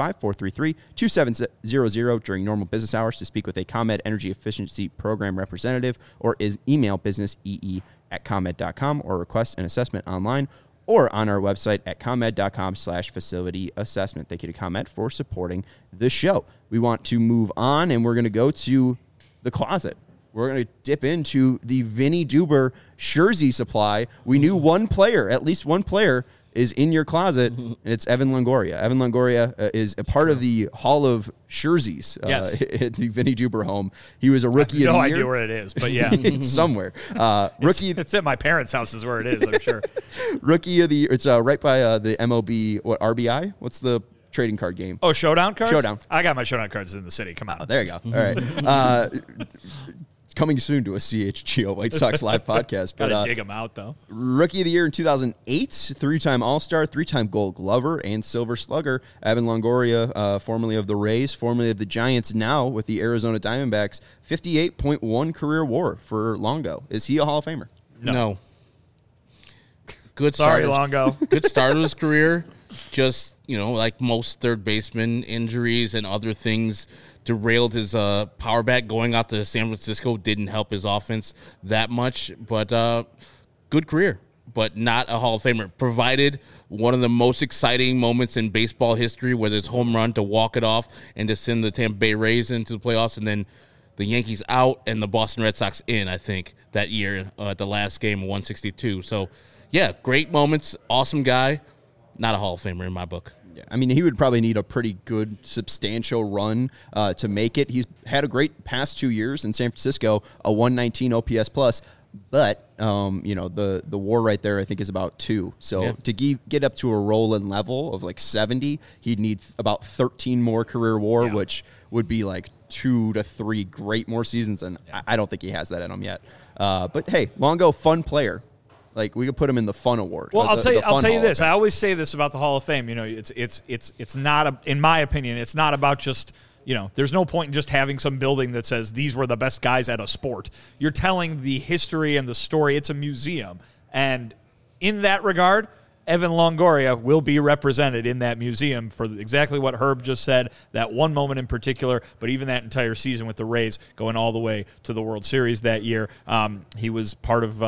1-855-433-2700 during normal business hours to speak with a ComEd Energy Efficiency Program representative, or email businessee@comed.com, or request an assessment online or on our website at ComEd.com/facility assessment. Thank you to ComEd for supporting the show. We want to move on, and we're going to go to the closet. we're going to dip into the Vinny Duber jersey supply. We knew at least one player is in your closet, and it's Evan Longoria. Evan Longoria is a part of the Hall of Jerseys at the Vinny Duber home. He was a rookie of the year. No idea where it is, but yeah. It's somewhere. It's at my parents' house is where it is, I'm sure. Rookie of the year. It's right by the MLB, RBI? What's the trading card game? Oh, Showdown cards? Showdown. I got my Showdown cards in the city. Come on. Oh, there you go. All right. Coming soon to a CHGO White Sox live podcast. Gotta dig them out, though. Rookie of the year in 2008, 3-time All-Star, 3-time Gold Glover, and Silver Slugger. Evan Longoria, formerly of the Rays, formerly of the Giants, now with the Arizona Diamondbacks. 58.1 career WAR for Longo. Is he a Hall of Famer? No. Good Sorry, start. Longo. Good start of his career. Just, like most third basemen, injuries and other things derailed his power back. Going out to San Francisco didn't help his offense that much, but good career, but not a Hall of Famer. Provided one of the most exciting moments in baseball history with his home run to walk it off and to send the Tampa Bay Rays into the playoffs, and then the Yankees out and the Boston Red Sox in, I think, that year at the last game, 162. So, yeah, great moments, awesome guy, not a Hall of Famer in my book. Yeah, I mean, he would probably need a pretty good, substantial run to make it. He's had a great past 2 years in San Francisco, a 119 OPS plus, but the WAR right there I think is about 2. So to get up to a rolling level of like 70, he'd need about 13 more career WAR, which would be like 2 to 3 great more seasons, and I don't think he has that in him yet. But hey, Longo, fun player. Like, we could put him in the fun award. Well, I'll tell you this. I always say this about the Hall of Fame. It's not in my opinion, it's not about just, there's no point in just having some building that says these were the best guys at a sport. You're telling the history and the story. It's a museum. And in that regard, Evan Longoria will be represented in that museum for exactly what Herb just said, that one moment in particular, but even that entire season with the Rays going all the way to the World Series that year. He was part of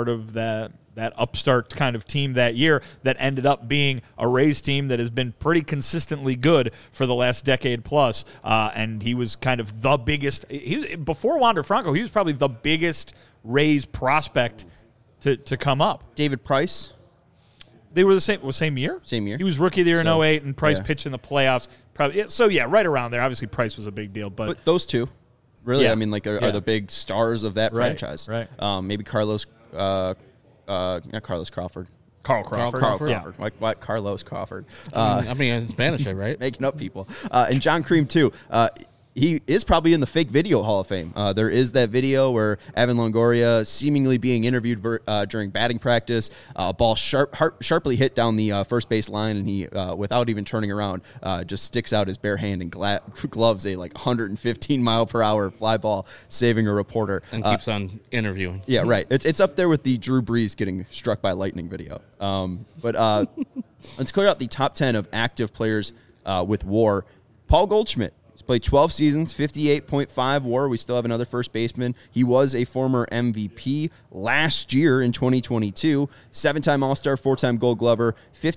that upstart kind of team that year that ended up being a Rays team that has been pretty consistently good for the last decade plus. And he was kind of the biggest. Before Wander Franco, he was probably the biggest Rays prospect to come up. David Price. They were the same year? Same year. He was rookie of the year in 2008, and Price pitched in the playoffs. Probably. So, right around there. Obviously, Price was a big deal. But those two, really, are the big stars of that franchise. Right. Maybe Carlos, not Carlos Crawford. Carl Crawford. Yeah. What Carlos Crawford. In Spanish, right? Making up people. And John Cream, too. He is probably in the fake video Hall of Fame. There is that video where Evan Longoria seemingly being interviewed during batting practice, ball sharply hit down the first base line, and he, without even turning around, just sticks out his bare hand and gloves a 115-mile-per-hour fly ball, saving a reporter. And keeps on interviewing. Yeah, right. It's up there with the Drew Brees getting struck by lightning video. But let's clear out the top 10 of active players with WAR. Paul Goldschmidt. Played 12 seasons, 58.5 WAR. We still have another first baseman. He was a former MVP last year in 2022. 7-time All-Star, 4-time Gold Glover,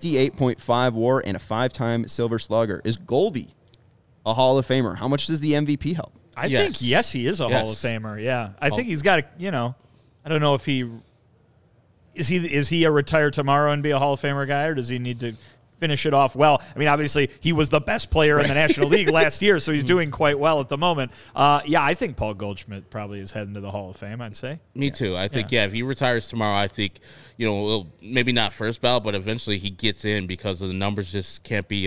58.5 WAR, and a 5-time Silver Slugger. Is Goldie a Hall of Famer? How much does the MVP help? I think, yes, he is a Hall of Famer, yeah. I think he's got a, I don't know if he – is he a retire tomorrow and be a Hall of Famer guy, or does he need to – finish it off well? I mean, obviously, he was the best player in the National League last year, so he's doing quite well at the moment. I think Paul Goldschmidt probably is heading to the Hall of Fame, I'd say. Me too. I think, if he retires tomorrow, I think, maybe not first ballot, but eventually he gets in because the numbers just can't be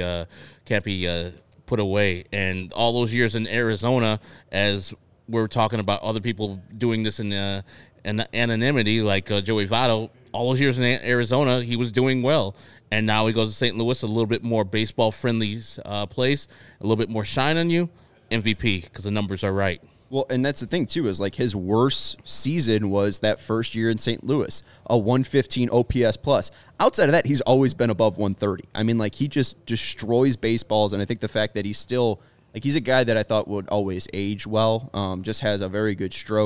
put away. And all those years in Arizona, as we're talking about other people doing this in anonymity, like Joey Votto, all those years in Arizona, he was doing well. And now he goes to St. Louis, a little bit more baseball-friendly place, a little bit more shine on you, MVP, because the numbers are right. Well, and that's the thing, too, is his worst season was that first year in St. Louis, a 115 OPS plus. Outside of that, he's always been above 130. I mean, he just destroys baseballs, and I think the fact that he's still – he's a guy that I thought would always age well, just has a very good stroke,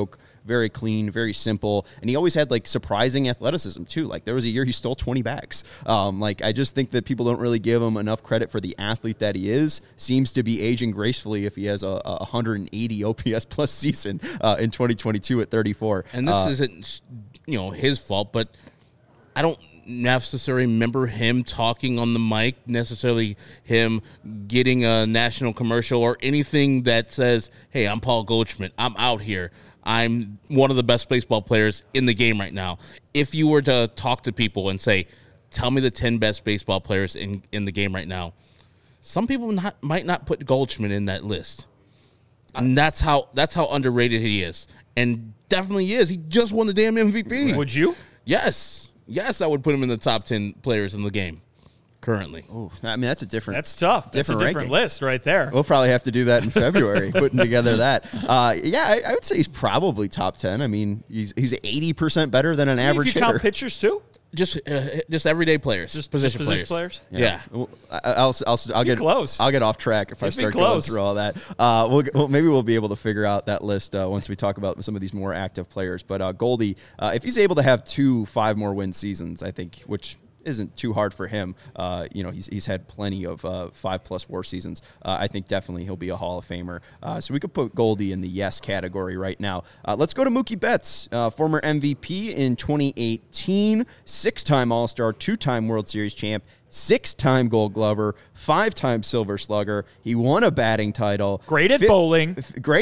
very clean, very simple, and he always had like surprising athleticism too. Like there was a year he stole 20 bags. Like I just think that people don't really give him enough credit for the athlete that he is. Seems to be aging gracefully if he has a 180 OPS plus season in 2022 at 34. And this isn't, his fault, but I don't necessarily remember him talking on the mic, necessarily him getting a national commercial or anything that says, hey, I'm Paul Goldschmidt. I'm out here. I'm one of the best baseball players in the game right now. If you were to talk to people and say, tell me the 10 best baseball players in the game right now, some people might not put Goldschmidt in that list. And that's how underrated he is. And definitely is. He just won the damn MVP. Would you? Yes. Yes, I would put him in the top 10 players in the game currently. Oh, I mean, that's a different. That's tough. That's a different ranking. List right there. We'll probably have to do that in February, putting together that. I would say he's probably top 10. I mean, he's 80% better than an average If you hitter. count pitchers too? Just everyday players, Just position players? Yeah. Well, I'll get close. I'll get off track if I It'd be start going close. through all that. Maybe we'll be able to figure out that list once we talk about some of these more active players. But Goldie, if he's able to have 5 more win seasons, I think, which isn't too hard for him. He's had plenty of 5+ WAR seasons. I think definitely he'll be a Hall of Famer. So we could put Goldie in the yes category right now. Let's go to Mookie Betts, former MVP in 2018, 6-time All-Star, 2-time World Series champ, 6-time Gold Glover, 5-time Silver Slugger. He won a batting title. Great at bowling.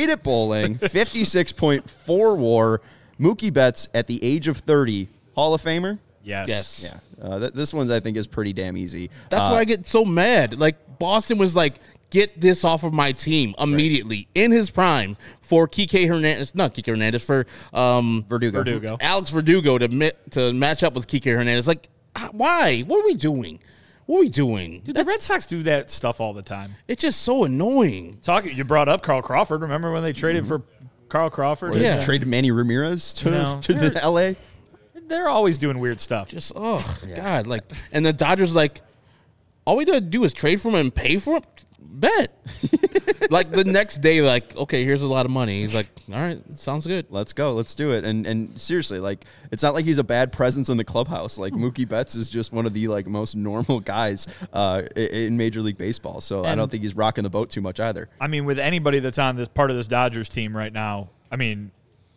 56.4 WAR. Mookie Betts at the age of 30, Hall of Famer. Yes. Yeah. This one, I think, is pretty damn easy. That's why I get so mad. Like, Boston was like, get this off of my team immediately in his prime for Kike Hernandez. Not Kike Hernandez, for Verdugo. Alex Verdugo to match up with Kike Hernandez. Like, why? What are we doing? Dude, the Red Sox do that stuff all the time. It's just so annoying. You brought up Carl Crawford. Remember when they traded for Carl Crawford? Or they traded Manny Ramirez to the L.A.? They're always doing weird stuff. Just, God. Like, and the Dodgers, like, all we gotta do is trade for him and pay for him? Bet. Like, the next day, like, okay, here's a lot of money. He's like, all right, sounds good. Let's go. Let's do it. And seriously, like, it's not like he's a bad presence in the clubhouse. Like, Mookie Betts is just one of the, like, most normal guys in Major League Baseball. So I don't think he's rocking the boat too much either. I mean, with anybody that's on this part of this Dodgers team right now, I mean,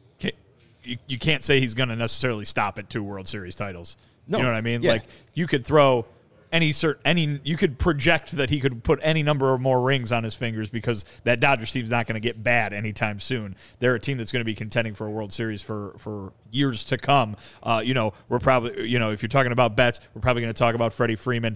you can't say he's going to necessarily stop at 2 World Series titles. No. You know what I mean? Yeah. Like, you could throw you could project that he could put any number of more rings on his fingers because that Dodgers team's not going to get bad anytime soon. They're a team that's going to be contending for a World Series for years to come. We're probably, if you're talking about Betts, we're probably going to talk about Freddie Freeman.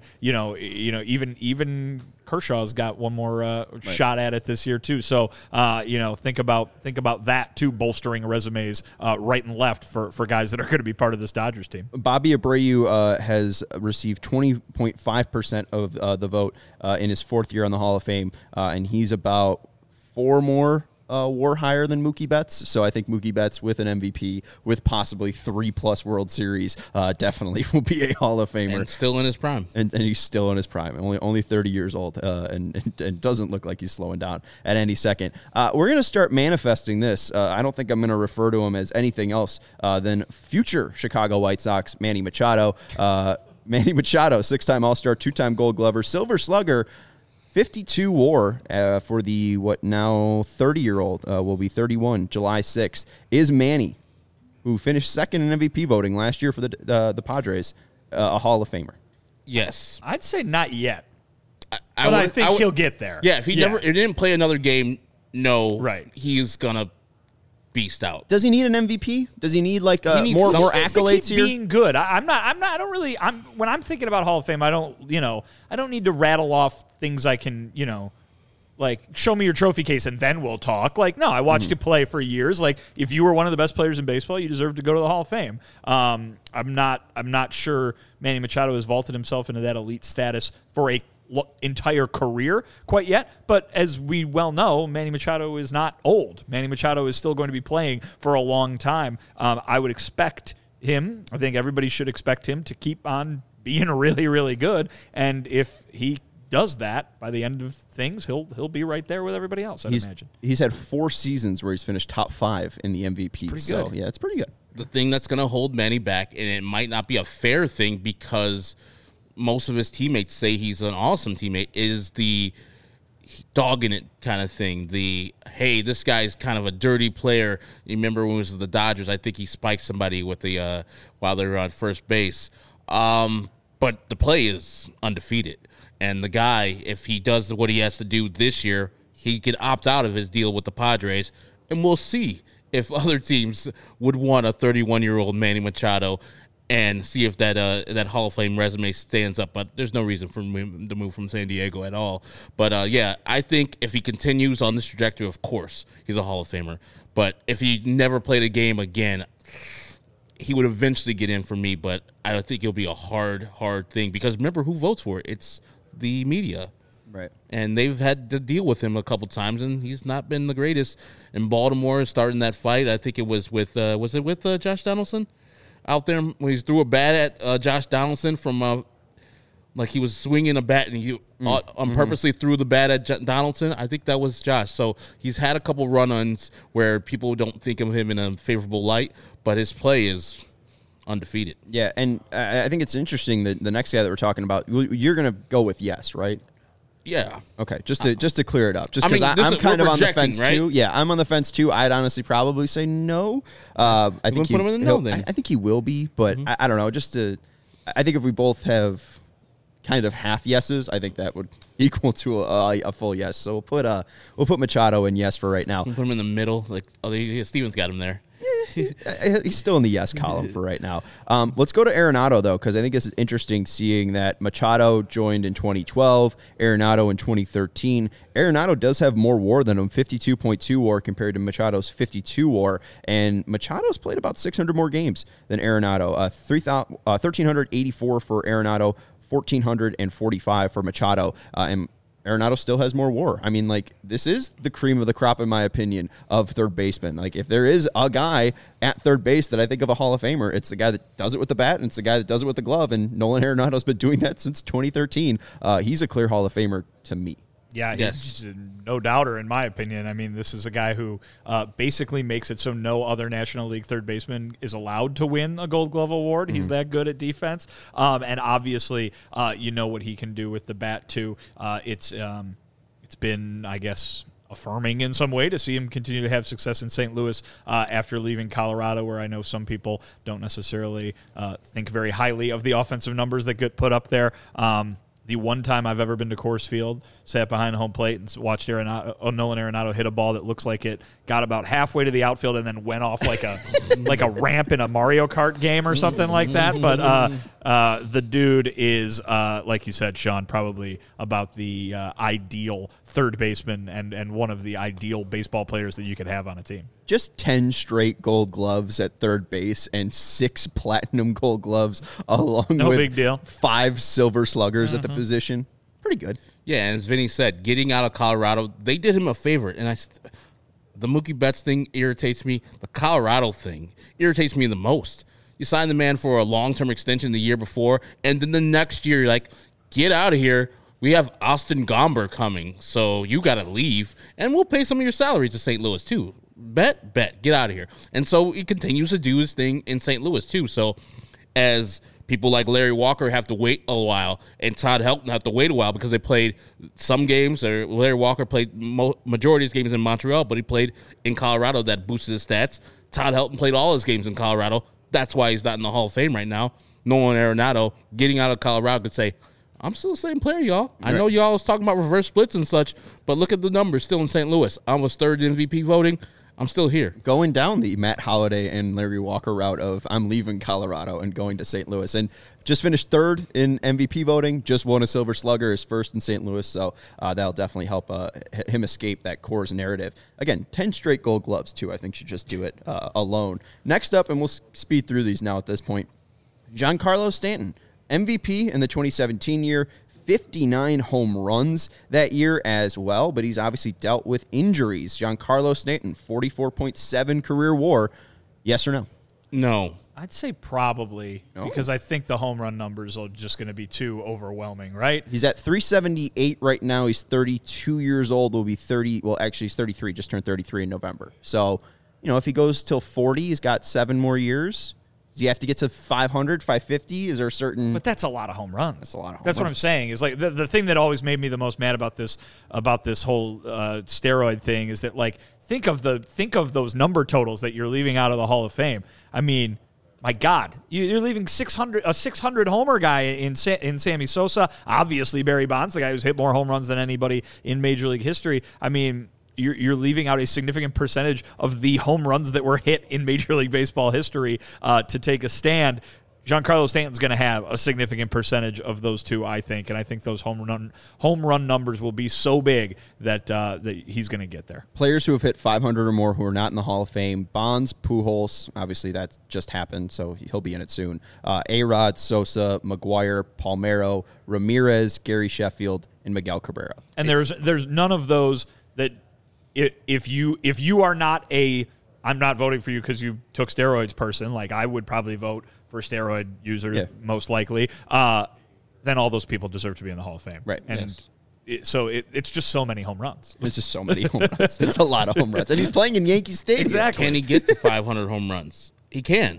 Even Kershaw's got one more shot at it this year too. So think about that too, bolstering resumes right and left for guys that are going to be part of this Dodgers team. Bobby Abreu has received 20.5% of the vote in his 4th year on the Hall of Fame, and he's about 4 more WAR higher than Mookie Betts. So I think Mookie Betts with an MVP, with possibly 3+ World Series, definitely will be a Hall of Famer. And still in his prime. And he's still in his prime, only 30 years old, and doesn't look like he's slowing down at any second. We're going to start manifesting this. I don't think I'm going to refer to him as anything else than future Chicago White Sox Manny Machado. Manny Machado, 6-time All-Star, 2-time Gold Glover, Silver Slugger, 52 WAR for the now 30-year-old, will be 31 July 6th, is Manny, who finished second in MVP voting last year for the Padres, a Hall of Famer. Yes. I'd say not yet, I think he'll get there. Yeah, if he didn't play another game, no, right, he's gonna beast out. Does he need an MVP? Does he need more accolades here? Being good. When I'm thinking about Hall of Fame, I don't need to rattle off things I can, like, show me your trophy case and then we'll talk. Like, no, I watched you play for years. Like, if you were one of the best players in baseball, you deserve to go to the Hall of Fame. I'm not sure Manny Machado has vaulted himself into that elite status for a entire career quite yet, but as we well know, Manny Machado is not old. Manny Machado is still going to be playing for a long time. I would expect him, I think everybody should expect him to keep on being really, really good, and if he does that, by the end of things, he'll be right there with everybody else, I'd imagine. He's had 4 seasons where he's finished top 5 in the MVP. Pretty so, good. yeah, it's pretty good. The thing that's going to hold Manny back, and it might not be a fair thing because most of his teammates say he's an awesome teammate, is the dogging it kind of thing. The, hey, this guy's kind of a dirty player. You remember when it was the Dodgers, I think he spiked somebody with the while they were on first base. But the play is undefeated. And the guy, if he does what he has to do this year, he could opt out of his deal with the Padres, and we'll see if other teams would want a 31-year-old Manny Machado and see if that Hall of Fame resume stands up. But there's no reason for him to move from San Diego at all. But, yeah, I think if he continues on this trajectory, of course, he's a Hall of Famer. But if he never played a game again, he would eventually get in for me. But I think it'll be a hard thing. Because remember, who votes for it? It's the media. Right. And they've had to deal with him a couple times, and he's not been the greatest. In Baltimore, starting that fight, I think it was with Josh Donaldson? Out there when he threw a bat at Josh Donaldson from like he was swinging a bat and he purposely threw the bat at Donaldson. I think that was Josh. So he's had a couple run-ons where people don't think of him in a favorable light, but his play is undefeated. Yeah, and I think it's interesting that the next guy that we're talking about, you're going to go with yes, right? Yeah. Okay, just to clear it up, just I mean, because I'm kind of on the fence right? too. Yeah, I'm on the fence too. I'd honestly probably say no. I think put him in the no, then. I think he will be, but I don't know. I think if we both have kind of half yeses, I think that would equal to a full yes. So we'll put Machado in yes for right now. We'll put him in the middle. Like, Steven's got him there. He's still in the yes column for right now. Let's go to Arenado, though, because I think this is interesting seeing that Machado joined in 2012, Arenado in 2013. Arenado does have more WAR than him, 52.2 WAR compared to Machado's 52 WAR, and Machado's played about 600 more games than Arenado. 1,384 for Arenado, 1,445 for Machado, and Arenado still has more WAR. I mean, like, this is the cream of the crop, in my opinion, of third baseman. Like, if there is a guy at third base that I think of a Hall of Famer, it's the guy that does it with the bat, and it's the guy that does it with the glove, and Nolan Arenado's been doing that since 2013. He's a clear Hall of Famer to me. Yeah, he's no doubter, in my opinion. I mean, this is a guy who basically makes it so no other National League third baseman is allowed to win a Gold Glove award. He's that good at defense. And obviously, you know what he can do with the bat, too. It's been, I guess, affirming in some way to see him continue to have success in St. Louis after leaving Colorado, where I know some people don't necessarily think very highly of the offensive numbers that get put up there. The one time I've ever been to Coors Field, sat behind home plate and watched Nolan Arenado hit a ball that looks like it got about halfway to the outfield and then went off like a ramp in a Mario Kart game or something like that. But the dude is, like you said, Sean, probably about the ideal third baseman and one of the ideal baseball players that you could have on a team. Just 10 straight Gold Gloves at third base and 6 platinum Gold Gloves along with big deal. 5 Silver Sluggers at the position. Pretty good. Yeah, and as Vinny said, getting out of Colorado, they did him a favor. And the Mookie Betts thing irritates me. The Colorado thing irritates me the most. You signed the man for a long-term extension the year before, and then the next year you're like, get out of here. We have Austin Gomber coming, so you got to leave, and we'll pay some of your salary to St. Louis too. Bet, get out of here. And so he continues to do his thing in St. Louis too. So as people like Larry Walker have to wait a while, and Todd Helton have to wait a while because they played some games, or Larry Walker played majority of his games in Montreal, but he played in Colorado. That boosted his stats. Todd Helton played all his games in Colorado. That's why he's not in the Hall of Fame right now. Nolan Arenado, getting out of Colorado, could say, I'm still the same player, y'all. I know y'all was talking about reverse splits and such, but look at the numbers still in St. Louis. I was third in MVP voting. I'm still here. Going down the Matt Holliday and Larry Walker route of I'm leaving Colorado and going to St. Louis. And just finished third in MVP voting, just won a Silver Slugger, is first in St. Louis. So that'll definitely help him escape that Coors narrative. Again, 10 straight Gold Gloves, too. I think should just do it alone. Next up, and we'll speed through these now at this point, Giancarlo Stanton, MVP in the 2017 year, 59 home runs that year as well, but he's obviously dealt with injuries. Giancarlo Stanton, 44.7 career WAR. Yes or no? No. I'd say probably because I think the home run numbers are just going to be too overwhelming, right? He's at 378 right now. He's 32 years old. Will be 30. Well, actually, he's 33. Just turned 33 in November. So, if he goes till 40, he's got 7 more years. Does he have to get to 500, 550? Is there a certain... But that's a lot of home runs. That's a lot of home That's what I'm saying. Is like the thing that always made me the most mad about this whole steroid thing is that, like, think of those number totals that you're leaving out of the Hall of Fame. I mean, my God, you're leaving a 600 homer guy in Sammy Sosa. Obviously, Barry Bonds, the guy who's hit more home runs than anybody in Major League history. I mean, you're leaving out a significant percentage of the home runs that were hit in Major League Baseball history to take a stand. Giancarlo Stanton's going to have a significant percentage of those two, I think, and I think those home run numbers will be so big that he's going to get there. Players who have hit 500 or more who are not in the Hall of Fame: Bonds, Pujols. Obviously, that just happened, so he'll be in it soon. A-Rod, Sosa, McGuire, Palmeiro, Ramirez, Gary Sheffield, and Miguel Cabrera. And there's none of those that if you are not I'm not voting for you because you took steroids person, like I would probably vote for steroid users most likely, then all those people deserve to be in the Hall of Fame. Right. And it's just so many home runs. It's just so many home runs. It's a lot of home runs. And he's playing in Yankee Stadium. Exactly. Can he get to 500 home runs? He can.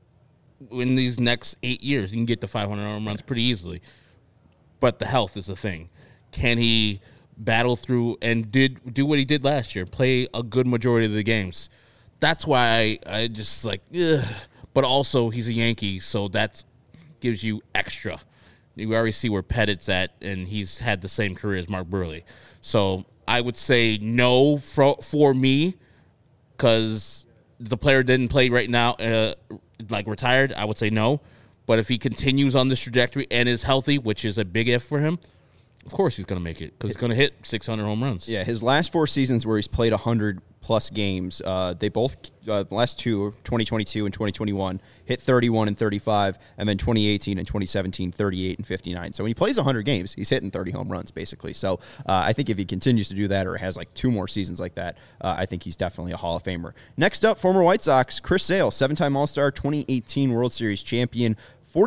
In these next 8 years, he can get to 500 home runs pretty easily. But the health is the thing. Can he battle through and do what he did last year, play a good majority of the games? That's why I just like, ugh. But also he's a Yankee, so that gives you extra. You already see where Pettit's at, and he's had the same career as Mark Buehrle. So I would say no for me, because the player didn't play right now, like retired. I would say no. But if he continues on this trajectory and is healthy, which is a big if for him, of course he's going to make it because he's going to hit 600 home runs. Yeah, his last 4 seasons where he's played 100-plus games, they both, last two, 2022 and 2021, hit 31 and 35, and then 2018 and 2017, 38 and 59. So when he plays 100 games, he's hitting 30 home runs, basically. So I think if he continues to do that or has like 2 more seasons like that, I think he's definitely a Hall of Famer. Next up, former White Sox, Chris Sale, 7-time All-Star, 2018 World Series champion,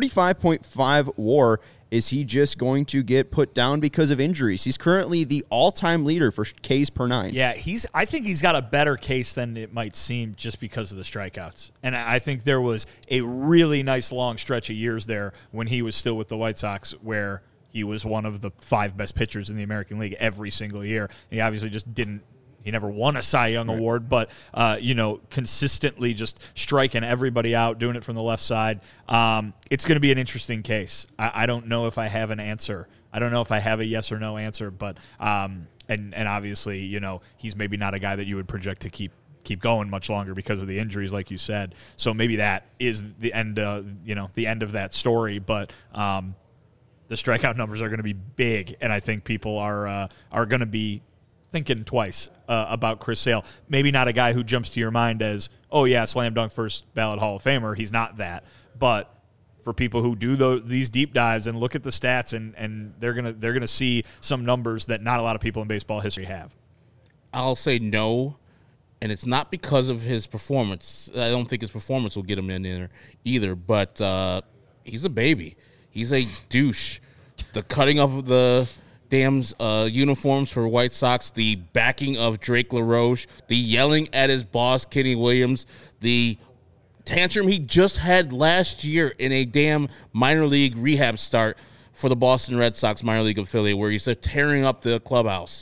45.5 WAR. Is he just going to get put down because of injuries? He's currently the all-time leader for Ks per 9. Yeah, I think he's got a better case than it might seem just because of the strikeouts. And I think there was a really nice long stretch of years there when he was still with the White Sox where he was one of the 5 best pitchers in the American League every single year. And he obviously just didn't. He never won a Cy Young award, but, consistently just striking everybody out, doing it from the left side. It's going to be an interesting case. I don't know if I have an answer. I don't know if I have a yes or no answer, but and obviously, he's maybe not a guy that you would project to keep going much longer because of the injuries, like you said. So maybe that is the end, the end of that story. But the strikeout numbers are going to be big, and I think people are going to be thinking twice about Chris Sale. Maybe not a guy who jumps to your mind as, oh yeah, slam dunk first ballot Hall of Famer. He's not that. But for people who do these deep dives and look at the stats, and they're gonna see some numbers that not a lot of people in baseball history have. I'll say no, and it's not because of his performance. I don't think his performance will get him in there either. But he's a baby. He's a douche. The cutting of the damn uniforms for White Sox, the backing of Drake LaRoche, the yelling at his boss, Kenny Williams, the tantrum he just had last year in a damn minor league rehab start for the Boston Red Sox minor league affiliate where he's tearing up the clubhouse.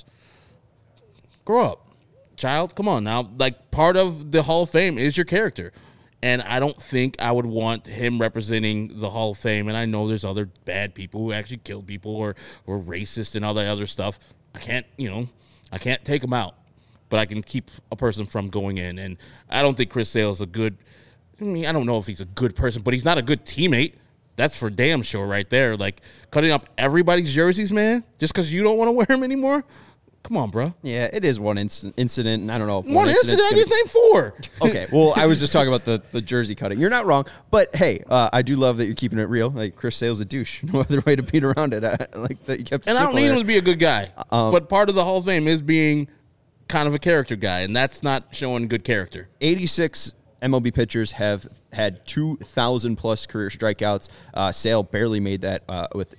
Grow up, child. Come on now. Like, part of the Hall of Fame is your character. And I don't think I would want him representing the Hall of Fame. And I know there's other bad people who actually killed people or were racist and all that other stuff. I can't take him out. But I can keep a person from going in. And I don't think Chris Sale is a good – I don't know if he's a good person, but he's not a good teammate. That's for damn sure right there. Like, cutting up everybody's jerseys, man, just because you don't want to wear them anymore? Come on, bro. Yeah, it is one incident, and I don't know. One incident? I just named 4. Okay, well, I was just talking about the jersey cutting. You're not wrong, but hey, I do love that you're keeping it real. Like, Chris Sale's a douche. No other way to beat around it. Like that you kept it and I don't need him to be a good guy, but part of the Hall of Fame is being kind of a character guy, and that's not showing good character. 86 MLB pitchers have had 2,000-plus career strikeouts. Sale barely made that with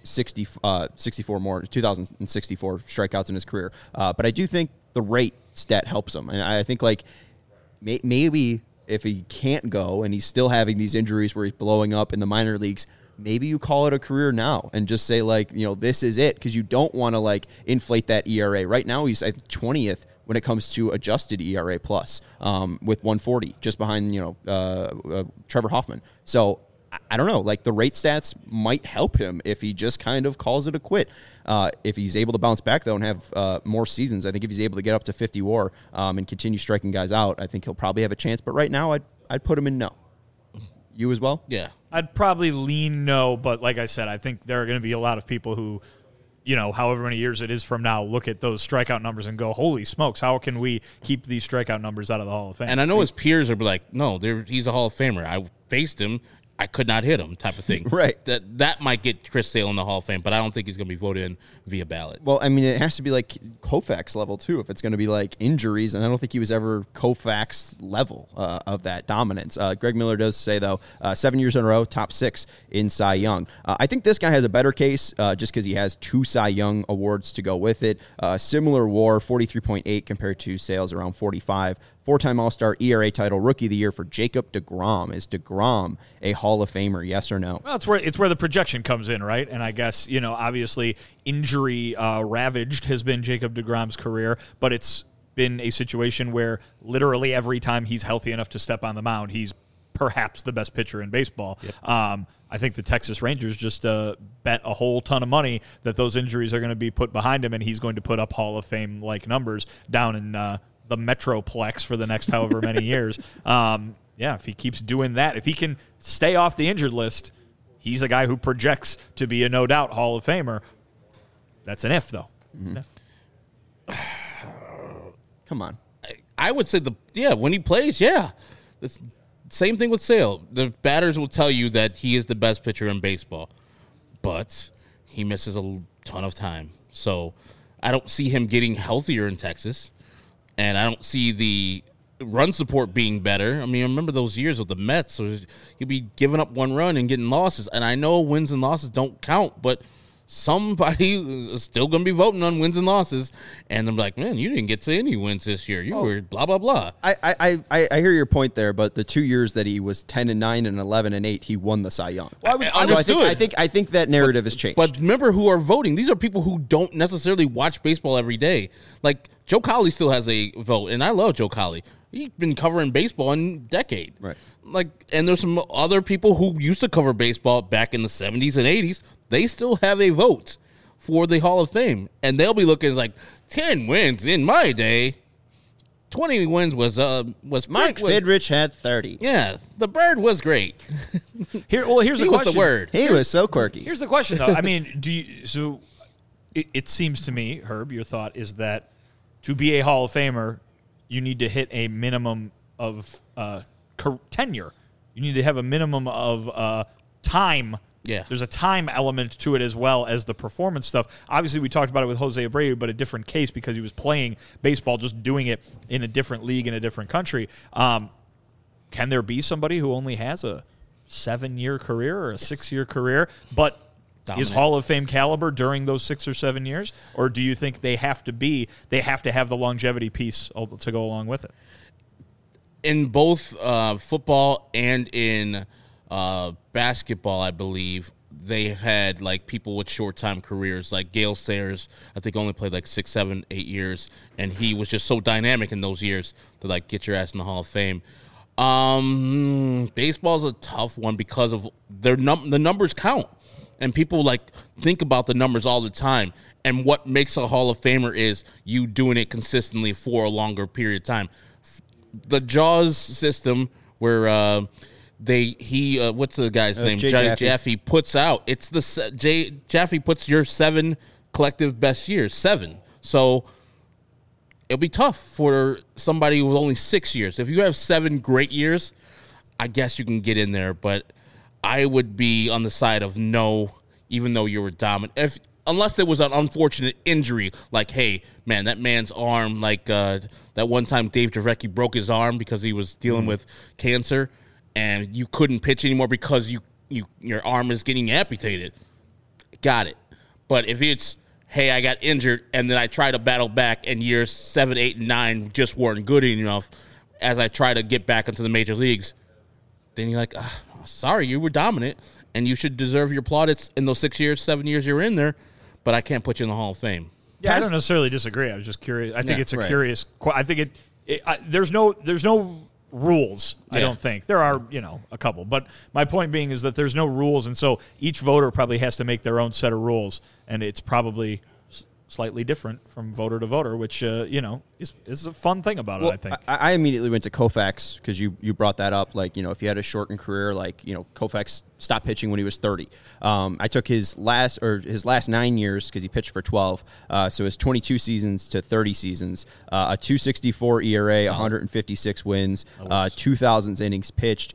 64 more, 2,064 strikeouts in his career. But I do think the rate stat helps him. And I think, like, maybe if he can't go and he's still having these injuries where he's blowing up in the minor leagues, maybe you call it a career now and just say, like, this is it, because you don't want to, like, inflate that ERA. Right now he's, I think, 20th when it comes to adjusted ERA plus, with 140, just behind, Trevor Hoffman. So I don't know, like, the rate stats might help him if he just kind of calls it a quit. If he's able to bounce back, though, and have more seasons, I think if he's able to get up to 50 WAR and continue striking guys out, I think he'll probably have a chance. But right now, I'd put him in no. You as well? Yeah. I'd probably lean no, but like I said, I think there are going to be a lot of people who, however many years it is from now, look at those strikeout numbers and go, holy smokes, how can we keep these strikeout numbers out of the Hall of Fame? And I know his peers are like, no, he's a Hall of Famer. I faced him. I could not hit him, type of thing. Right. That might get Chris Sale in the Hall of Fame, but I don't think he's going to be voted in via ballot. Well, I mean, it has to be like Koufax level, too, if it's going to be like injuries. And I don't think he was ever Koufax level of that dominance. Greg Miller does say, though, 7 years in a row, top 6 in Cy Young. I think this guy has a better case just because he has 2 Cy Young awards to go with it. Similar WAR, 43.8 compared to Sale's around 45. 4-time All-Star, ERA title, Rookie of the Year for Jacob deGrom. Is deGrom a Hall of Famer, yes or no? Well, it's where the projection comes in, right? And I guess, obviously injury ravaged has been Jacob deGrom's career, but it's been a situation where literally every time he's healthy enough to step on the mound, he's perhaps the best pitcher in baseball. Yep. I think the Texas Rangers just bet a whole ton of money that those injuries are going to be put behind him, and he's going to put up Hall of Fame-like numbers down in the Metroplex for the next however many years. If he keeps doing that, if he can stay off the injured list, he's a guy who projects to be a no-doubt Hall of Famer. That's an if, though. Mm-hmm. Come on. I would say when he plays, yeah. It's same thing with Sale. The batters will tell you that he is the best pitcher in baseball, but he misses a ton of time. So I don't see him getting healthier in Texas. And I don't see the run support being better. I mean, I remember those years with the Mets. So he'd be giving up 1 run and getting losses. And I know wins and losses don't count, but somebody is still going to be voting on wins and losses. And I'm like, man, you didn't get to any wins this year. You were blah, blah, blah. I hear your point there, but the 2 years that he was 10-9 and 11-8, he won the Cy Young. Well, I think that narrative has changed. But remember who are voting. These are people who don't necessarily watch baseball every day. Like, Joe Colley still has a vote, and I love Joe Colley. He's been covering baseball in a decade. Right. And there's some other people who used to cover baseball back in the 70s and 80s. They still have a vote for the Hall of Fame. And they'll be looking like 10 wins in my day. 20 wins was Mike Fidrich had 30. Yeah, the Bird was great. Here's the question. He was the word. He was so quirky. Here's the question, though. I mean, it seems to me, Herb, your thought is that to be a Hall of Famer, you need to hit a minimum of tenure. You need to have a minimum of time. Yeah. There's a time element to it as well as the performance stuff. Obviously, we talked about it with Jose Abreu, but a different case because he was playing baseball, just doing it in a different league in a different country. Can there be somebody who only has a 7-year career or a 6-year career, but is Hall of Fame caliber during those 6 or 7 years? Or do you think they have to have the longevity piece to go along with it? In both football and in basketball, I believe, they have had like people with short time careers, like Gale Sayers, I think only played like 6, 7, 8 years, and he was just so dynamic in those years to like get your ass in the Hall of Fame. Baseball's a tough one because of the numbers count. And people like think about the numbers all the time. And what makes a Hall of Famer is you doing it consistently for a longer period of time. The Jaws system where what's the guy's name? Jaffe puts out. It's Jaffe puts your 7 collective best years, 7. So it'll be tough for somebody with only 6 years. If you have 7 great years, I guess you can get in there, but I would be on the side of no, even though you were dominant. If unless there was an unfortunate injury, like, hey, man, that man's arm, like that one time Dave Dravecky broke his arm because he was dealing with cancer, and you couldn't pitch anymore because your arm is getting amputated. Got it. But if it's, hey, I got injured, and then I try to battle back, and years 7, 8, and 9 just weren't good enough as I try to get back into the major leagues, then you're like, sorry, you were dominant, and you should deserve your plaudits in those 6 years, 7 years you're in there, but I can't put you in the Hall of Fame. Yeah, I don't necessarily disagree. I was just curious. I think it's a right. curious. I think there's no rules. I don't think there are. A couple. But my point being is that there's no rules, and so each voter probably has to make their own set of rules, and it's probably slightly different from voter to voter, which is a fun thing about it. I think. I immediately went to Koufax because you brought that up. Like, if you had a shortened career, like, Koufax stopped pitching when he was 30. I took his last 9 years because he pitched for 12. So his 22 seasons to 30 seasons, a 2.64 ERA, 156 wins, 2,000 innings pitched.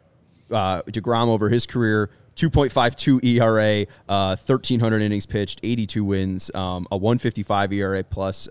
DeGrom over his career, 2.52 ERA, 1,300 innings pitched, 82 wins, a 1.55 ERA plus,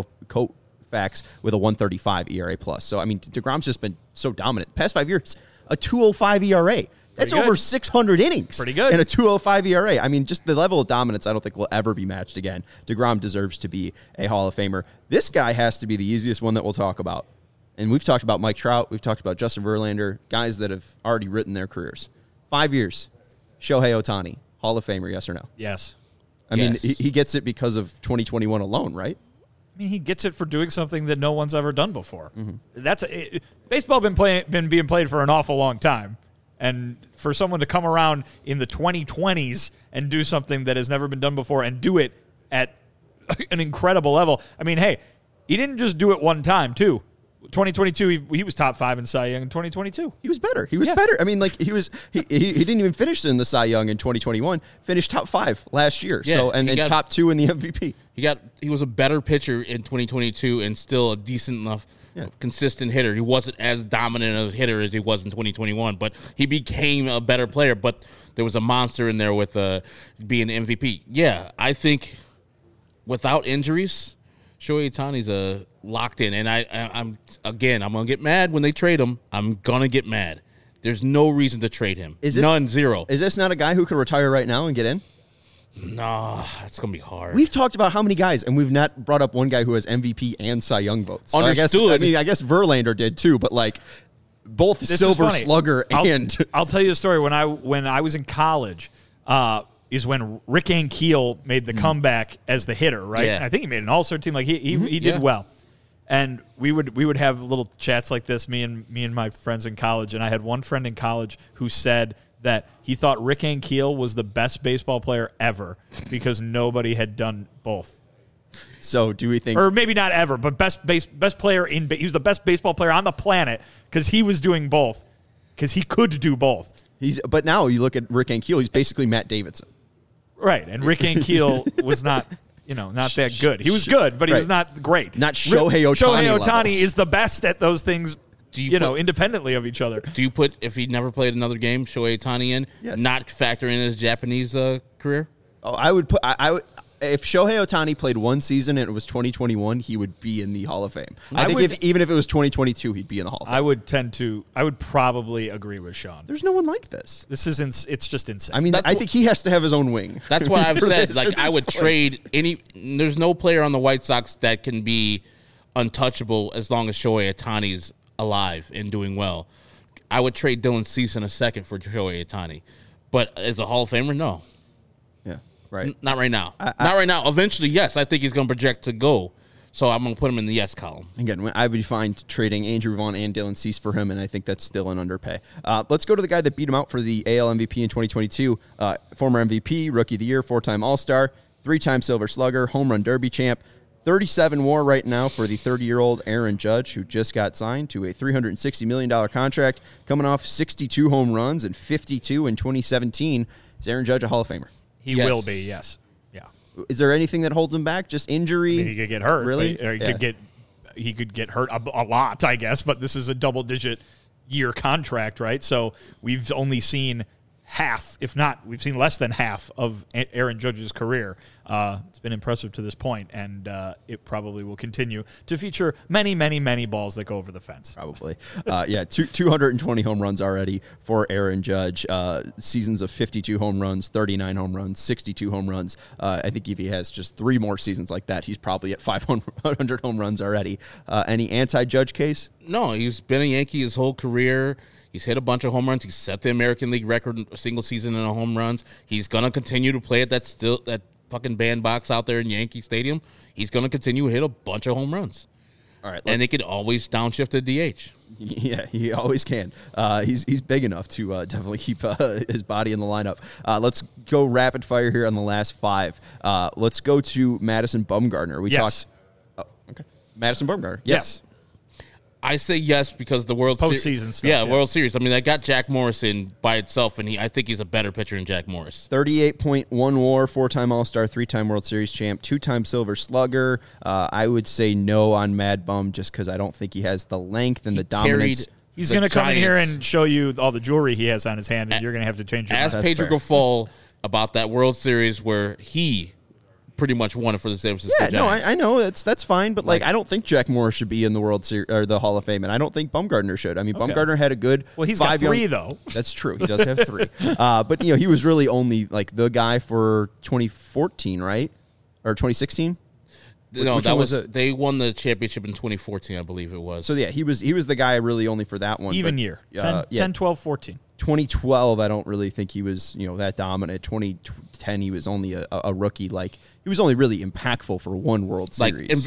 Koufax with a 1.35 ERA plus. So, I mean, DeGrom's just been so dominant. Past 5 years, a 2.05 ERA. That's over 600 innings. Pretty good. And a 2.05 ERA. I mean, just the level of dominance I don't think will ever be matched again. DeGrom deserves to be a Hall of Famer. This guy has to be the easiest one that we'll talk about. And we've talked about Mike Trout. We've talked about Justin Verlander, guys that have already written their careers. 5 years. Shohei Ohtani, Hall of Famer, yes or no? Yes. I mean, he gets it because of 2021 alone, right? I mean, he gets it for doing something that no one's ever done before. Mm-hmm. Baseball been being played for an awful long time, and for someone to come around in the 2020s and do something that has never been done before and do it at an incredible level. I mean, hey, he didn't just do it one time, too. 2022, he was top 5 in Cy Young in 2022. He was better. He was better. I mean, like, he didn't even finish in the Cy Young in 2021. Finished top 5 last year. Yeah, so and top 2 in the MVP. He was a better pitcher in 2022 and still a decent enough, consistent hitter. He wasn't as dominant of a hitter as he was in 2021, but he became a better player. But there was a monster in there with being the MVP. Yeah, I think without injuries, Shohei Ohtani's a locked in, and I'm gonna get mad when they trade him. I'm gonna get mad. There's no reason to trade him. Zero. Is this not a guy who could retire right now and get in? No, it's gonna be hard. We've talked about how many guys, and we've not brought up one guy who has MVP and Cy Young votes. So Understood. I guess Verlander did too, but like both This Silver is funny. Slugger and I'll tell you a story. When I was in college, is when Rick Ankiel made the comeback as the hitter, right? Yeah. I think he made an all-star team. Like he did well. And we would have little chats like this, me and my friends in college. And I had one friend in college who said that he thought Rick Ankiel was the best baseball player ever because nobody had done both. So do we think, or maybe not ever, but best player he was the best baseball player on the planet because he was doing both, because he could do both. But now you look at Rick Ankiel, he's basically Matt Davidson. Right, and Rick Ankiel was not that good. He was good, but he was not great. Not Shohei Ohtani Shohei Ohtani levels. is the best at those things, independently of each other. Do you put, if he never played another game, Shohei Ohtani in, not factor in his Japanese career? Oh, I would put. I would. If Shohei Ohtani played one season and it was 2021, he would be in the Hall of Fame. I think even if it was 2022, he'd be in the Hall of Fame. I would probably agree with Sean. There's no one like this. It's just insane. I mean, I think he has to have his own wing. That's what I've said. this, Like, I would trade there's no player on the White Sox that can be untouchable as long as Shohei Ohtani's alive and doing well. I would trade Dylan Cease in a second for Shohei Ohtani. But as a Hall of Famer, no. Yeah, right. Not right now. Not right now. Eventually, yes, I think he's going to project to go. So I'm going to put him in the yes column. Again, I would be fine trading Andrew Vaughn and Dylan Cease for him, and I think that's still an underpay. Let's go to the guy that beat him out for the AL MVP in 2022. Former MVP, Rookie of the Year, 4-time All-Star, 3-time Silver Slugger, Home Run Derby champ. 37 WAR right now for the 30-year-old Aaron Judge, who just got signed to a $360 million contract, coming off 62 home runs and 52 in 2017. Is Aaron Judge a Hall of Famer? He will be, yes. Yeah. Is there anything that holds him back? Just injury? I mean, he could get hurt. Really? Or he could get hurt a lot, I guess, but this is a double-digit year contract, right? So we've only seen half, if not, we've seen less than half of Aaron Judge's career. It's been impressive to this point, and it probably will continue to feature many, many, many balls that go over the fence. Probably. 220 home runs already for Aaron Judge. Seasons of 52 home runs, 39 home runs, 62 home runs. I think if he has just 3 more seasons like that, he's probably at 500 home runs already. Any anti-Judge case? No, he's been a Yankee his whole career. He's hit a bunch of home runs. He's set the American League record single season in home runs. He's going to continue to play at that fucking bandbox out there in Yankee Stadium. He's going to continue to hit a bunch of home runs. All right, and they could always downshift to DH. Yeah, he always can. He's big enough to definitely keep his body in the lineup. Let's go rapid fire here on the last 5. Let's go to Madison Bumgarner. We talked. Oh, okay. Madison Bumgarner. Yes. I say yes because the World Postseason stuff. Yeah, World Series. I mean, I got Jack Morrison by itself, and I think he's a better pitcher than Jack Morris. 38.1 WAR, 4-time All-Star, 3-time World Series champ, 2-time Silver Slugger. I would say no on Mad Bum just because I don't think he has the length and the dominance. He's going to come in here and show you all the jewelry he has on his hand, and you're going to have to change your mind. Ask Pedro Grifol about that World Series where he pretty much won it for the San Francisco Giants. No, I know that's fine, but I don't think Jack Morris should be in the World Series or the Hall of Fame, and I don't think Bumgarner should. I mean, Bumgarner had a good. Well, he's got 3 though. That's true. He does have 3, but he was really only the guy for 2014, right, or 2016. No, that was they won the championship in 2014, I believe it was. So yeah, he was the guy really only for that one. Even year. 10, 12, 14. 2012, I don't really think he was that dominant. 2010, he was only a rookie. He was only really impactful for one World Series.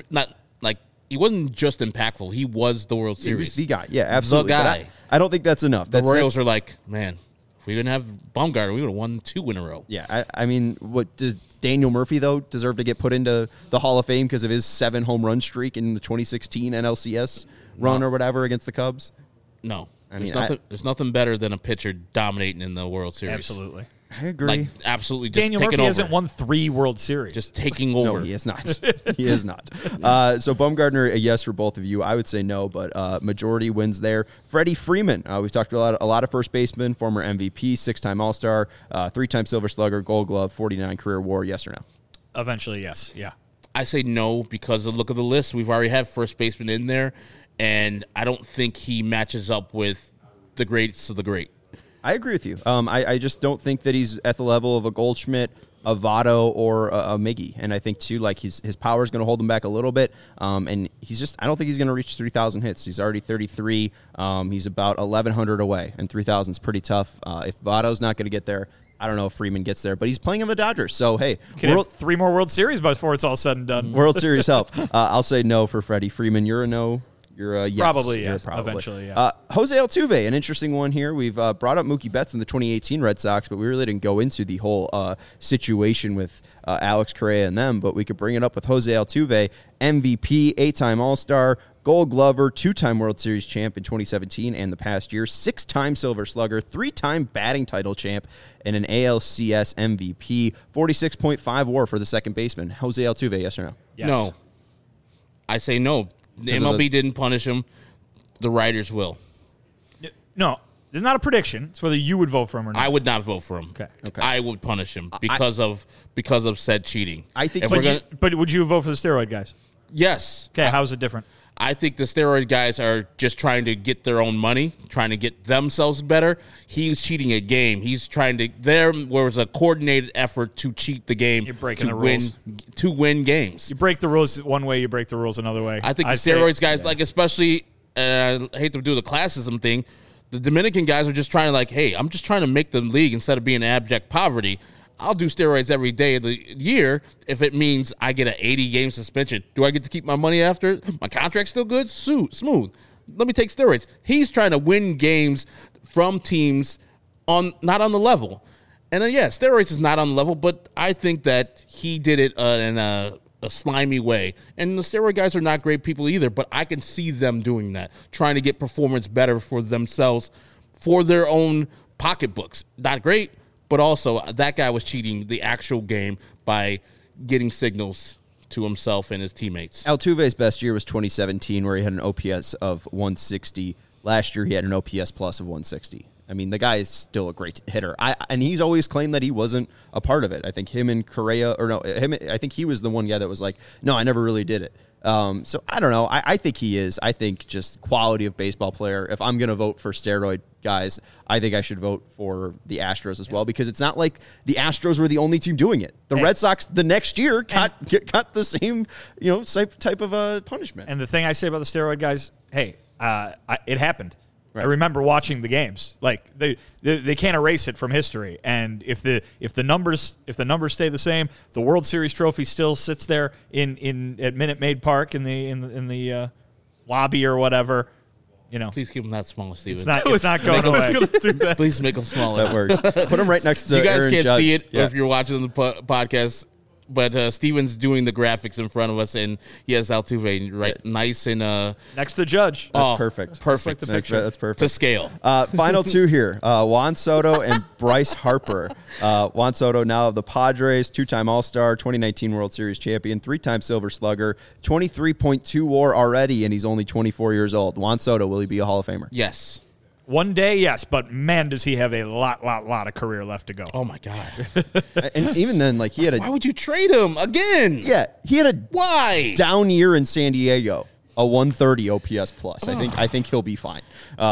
He wasn't just impactful. He was the World Series. He was the guy. Yeah, absolutely. The guy. But I don't think that's enough. The Royals are like, man, if we didn't have Bumgarner, we would have won 2 in a row. Yeah, I mean, what does Daniel Murphy though deserve to get put into the Hall of Fame because of his 7 home run streak in the 2016 NLCS run or whatever against the Cubs? No. There's nothing better than a pitcher dominating in the World Series. Absolutely. I agree. Absolutely just Daniel taking Murphy over. hasn't won 3 World Series. Just taking over. No, he is not. He is not. So Bumgarner, a yes for both of you. I would say no, but majority wins there. Freddie Freeman. We've talked about a lot of first basemen, former MVP, 6-time All-Star, 3-time Silver Slugger, Gold Glove, 49 career WAR. Yes or no? Eventually, yes. Yeah. I say no because of the look of the list. We've already had first baseman in there, and I don't think he matches up with the greats of the great. I agree with you. I just don't think that he's at the level of a Goldschmidt, a Votto, or a Miggy. And I think, too, his power is going to hold him back a little bit. And I don't think he's going to reach 3,000 hits. He's already 33. He's about 1,100 away, and 3,000 is pretty tough. If Votto's not going to get there, I don't know if Freeman gets there. But he's playing on the Dodgers. So, hey. Can have 3 more World Series before it's all said and done. World Series help. I'll say no for Freddie Freeman. You're a no. You're a yes. Probably, yes. Probably. Eventually, yeah. Jose Altuve, an interesting one here. We've brought up Mookie Betts in the 2018 Red Sox, but we really didn't go into the whole situation with Alex Correa and them. But we could bring it up with Jose Altuve, MVP, 8-time All-Star, Gold Glover, 2-time World Series champ in 2017 and the past year, 6-time Silver Slugger, 3-time batting title champ, and an ALCS MVP, 46.5 WAR for the second baseman. Jose Altuve, yes or no? Yes. No. I say no. The MLB didn't punish him. The writers will. No, it's not a prediction. It's whether you would vote for him or not. I would not vote for him. Okay. I would punish him because of said cheating. I think. But would you vote for the steroid guys? Yes. Okay. How's it different? I think the steroid guys are just trying to get their own money, trying to get themselves better. He's cheating a game. He's trying to. There was a coordinated effort to cheat the game. You're breaking the rules. To win games. You break the rules one way, you break the rules another way. I think the steroids guys, especially, I hate to do the classism thing, the Dominican guys are just trying to hey, I'm just trying to make the league instead of being abject poverty. I'll do steroids every day of the year if it means I get an 80-game suspension. Do I get to keep my money after? My contract's still good? Smooth. Let me take steroids. He's trying to win games from teams not on the level. And steroids is not on the level, but I think that he did it in a slimy way. And the steroid guys are not great people either, but I can see them doing that, trying to get performance better for themselves, for their own pocketbooks. Not great. But also, that guy was cheating the actual game by getting signals to himself and his teammates. Altuve's best year was 2017, where he had an OPS of 160. Last year, he had an OPS plus of 160. I mean, the guy is still a great hitter. And he's always claimed that he wasn't a part of it. I think him and Correa, I think he was the one guy that was like, no, I never really did it. So I don't know. I think he is. I think just quality of baseball player. If I'm going to vote for steroid guys, I think I should vote for the Astros as well, because it's not like the Astros were the only team doing it. The Red Sox the next year got the same, type of punishment. And the thing I say about the steroid guys, hey, it happened. Right. I remember watching the games. Like they can't erase it from history. And if the numbers stay the same, the World Series trophy still sits there at Minute Maid Park in the lobby or whatever. Please keep them that small, Steven. It's not going away. Please make them smaller. That works. Put them right next to You guys Aaron can't Judge. see it Yeah. if you're watching the podcast, but Steven's doing the graphics in front of us, and he has Altuve right, nice and Next to Judge. That's perfect. Perfect. That's perfect. To scale. Final two here. Juan Soto and Bryce Harper. Juan Soto, now of the Padres, two-time All-Star, 2019 World Series champion, three-time Silver Slugger, 23.2 WAR already, and he's only 24 years old. Juan Soto, will he be a Hall of Famer? Yes. One day, yes, but man, does he have a lot of career left to go. Oh my God. And even then, like, he had Why would you trade him again? he had a Why? down year in San Diego. A 130 OPS plus. I think he'll be fine.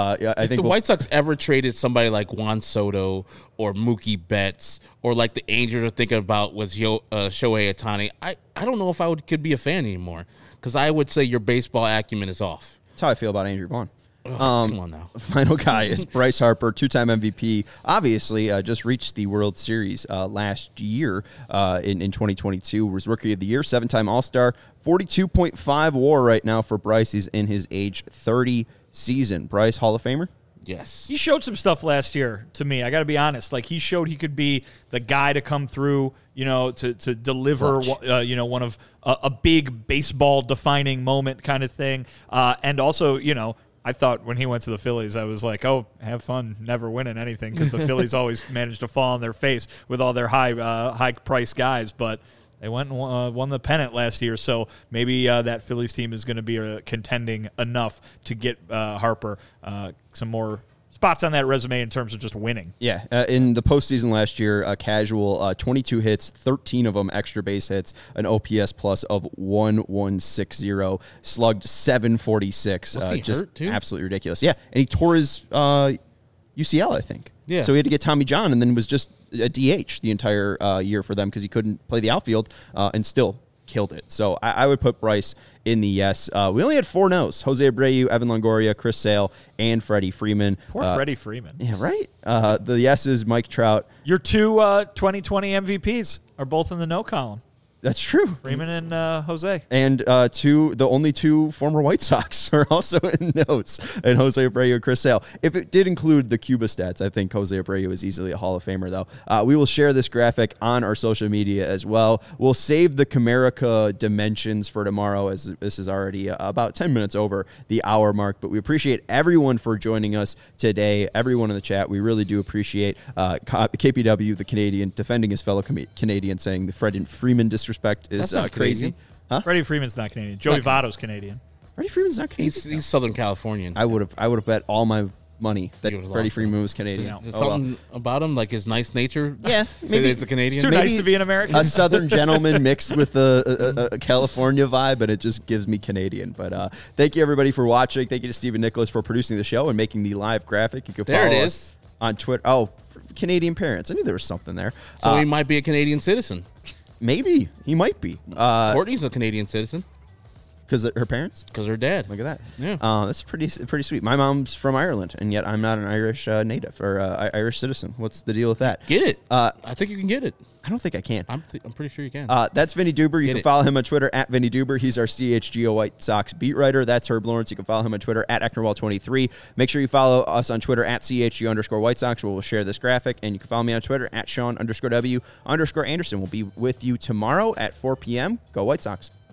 I think the White Sox ever traded somebody like Juan Soto or Mookie Betts or like the Angels are thinking about with Shohei Ohtani, I don't know if I could be a fan anymore, because I would say your baseball acumen is off. That's how I feel about Andrew Vaughn. Come on now. Final guy is Bryce Harper, two-time MVP. Obviously, just reached the World Series last year in 2022. Was Rookie of the Year, seven-time All-Star, 42.5 WAR right now for Bryce. He's in his age 30 season. Bryce, Hall of Famer? Yes. He showed some stuff last year to me. I got to be honest. Like, he showed he could be the guy to come through, to deliver, one of a big baseball defining moment kind of thing. And also, I thought when he went to the Phillies, I was like, oh, have fun never winning anything, because the Phillies always managed to fall on their face with all their high-priced guys. But they went and won the pennant last year, so maybe that Phillies team is going to be contending enough to get Harper some more spots on that resume in terms of just winning. Yeah, in the postseason last year, casual, 22 hits, 13 of them extra base hits, an OPS plus of 1160, slugged 746. Was he just hurt too? Absolutely ridiculous. Yeah, and he tore his UCL, I think. Yeah. So he had to get Tommy John, and then was just a DH the entire year for them because he couldn't play the outfield, and still killed it. So I would put Bryce in the yes. We only had 4 no's: Jose Abreu, Evan Longoria, Chris Sale, and Freddie Freeman. Poor Freddie Freeman. Yeah, right? The yeses, Mike Trout. Your two 2020 MVPs are both in the no column. That's true. Freeman and Jose. And the only two former White Sox are also in notes, and Jose Abreu and Chris Sale. If it did include the Cuba stats, I think Jose Abreu is easily a Hall of Famer, though. We will share this graphic on our social media as well. We'll save the Comerica dimensions for tomorrow, as this is already about 10 minutes over the hour mark. But we appreciate everyone for joining us today, everyone in the chat. We really do appreciate KPW, the Canadian, defending his fellow Canadian, saying the Fred and Freeman disrespect is That's not crazy. Canadian. Huh? Freddie Freeman's not Canadian. Joey Votto's Canadian. Freddie Freeman's not Canadian. He's Southern Californian. I would have bet all my money that You would've Freddie lost Freeman was Canadian. Yeah. Is Oh, well. something about him, like his nice nature? Yeah, Say maybe that it's a Canadian? Too Maybe nice to be an American. a Southern gentleman mixed with a California vibe, but it just gives me Canadian. But thank you, everybody, for watching. Thank you to Stephen Nicholas for producing the show and making the live graphic. You can There follow it us is. on Twitter. Oh, Canadian parents. I knew there was something there. So he might be a Canadian citizen. Maybe. He might be. Courtney's a Canadian citizen Because her parents? because her dad. Look at that. Yeah. That's pretty sweet. My mom's from Ireland, and yet I'm not an Irish native or Irish citizen. What's the deal with that? Get it. I think you can get it. I don't think I can. I'm pretty sure you can. That's Vinny Duber. You Get can it. follow him on Twitter at Vinny Duber. He's our CHGO White Sox beat writer. That's Herb Lawrence. You can follow him on Twitter at Ecknerwall23. Make sure you follow us on Twitter at CHG_White Sox, where we'll share this graphic. And you can follow me on Twitter at Sean_W_Anderson. We'll be with you tomorrow at 4 p.m. Go White Sox.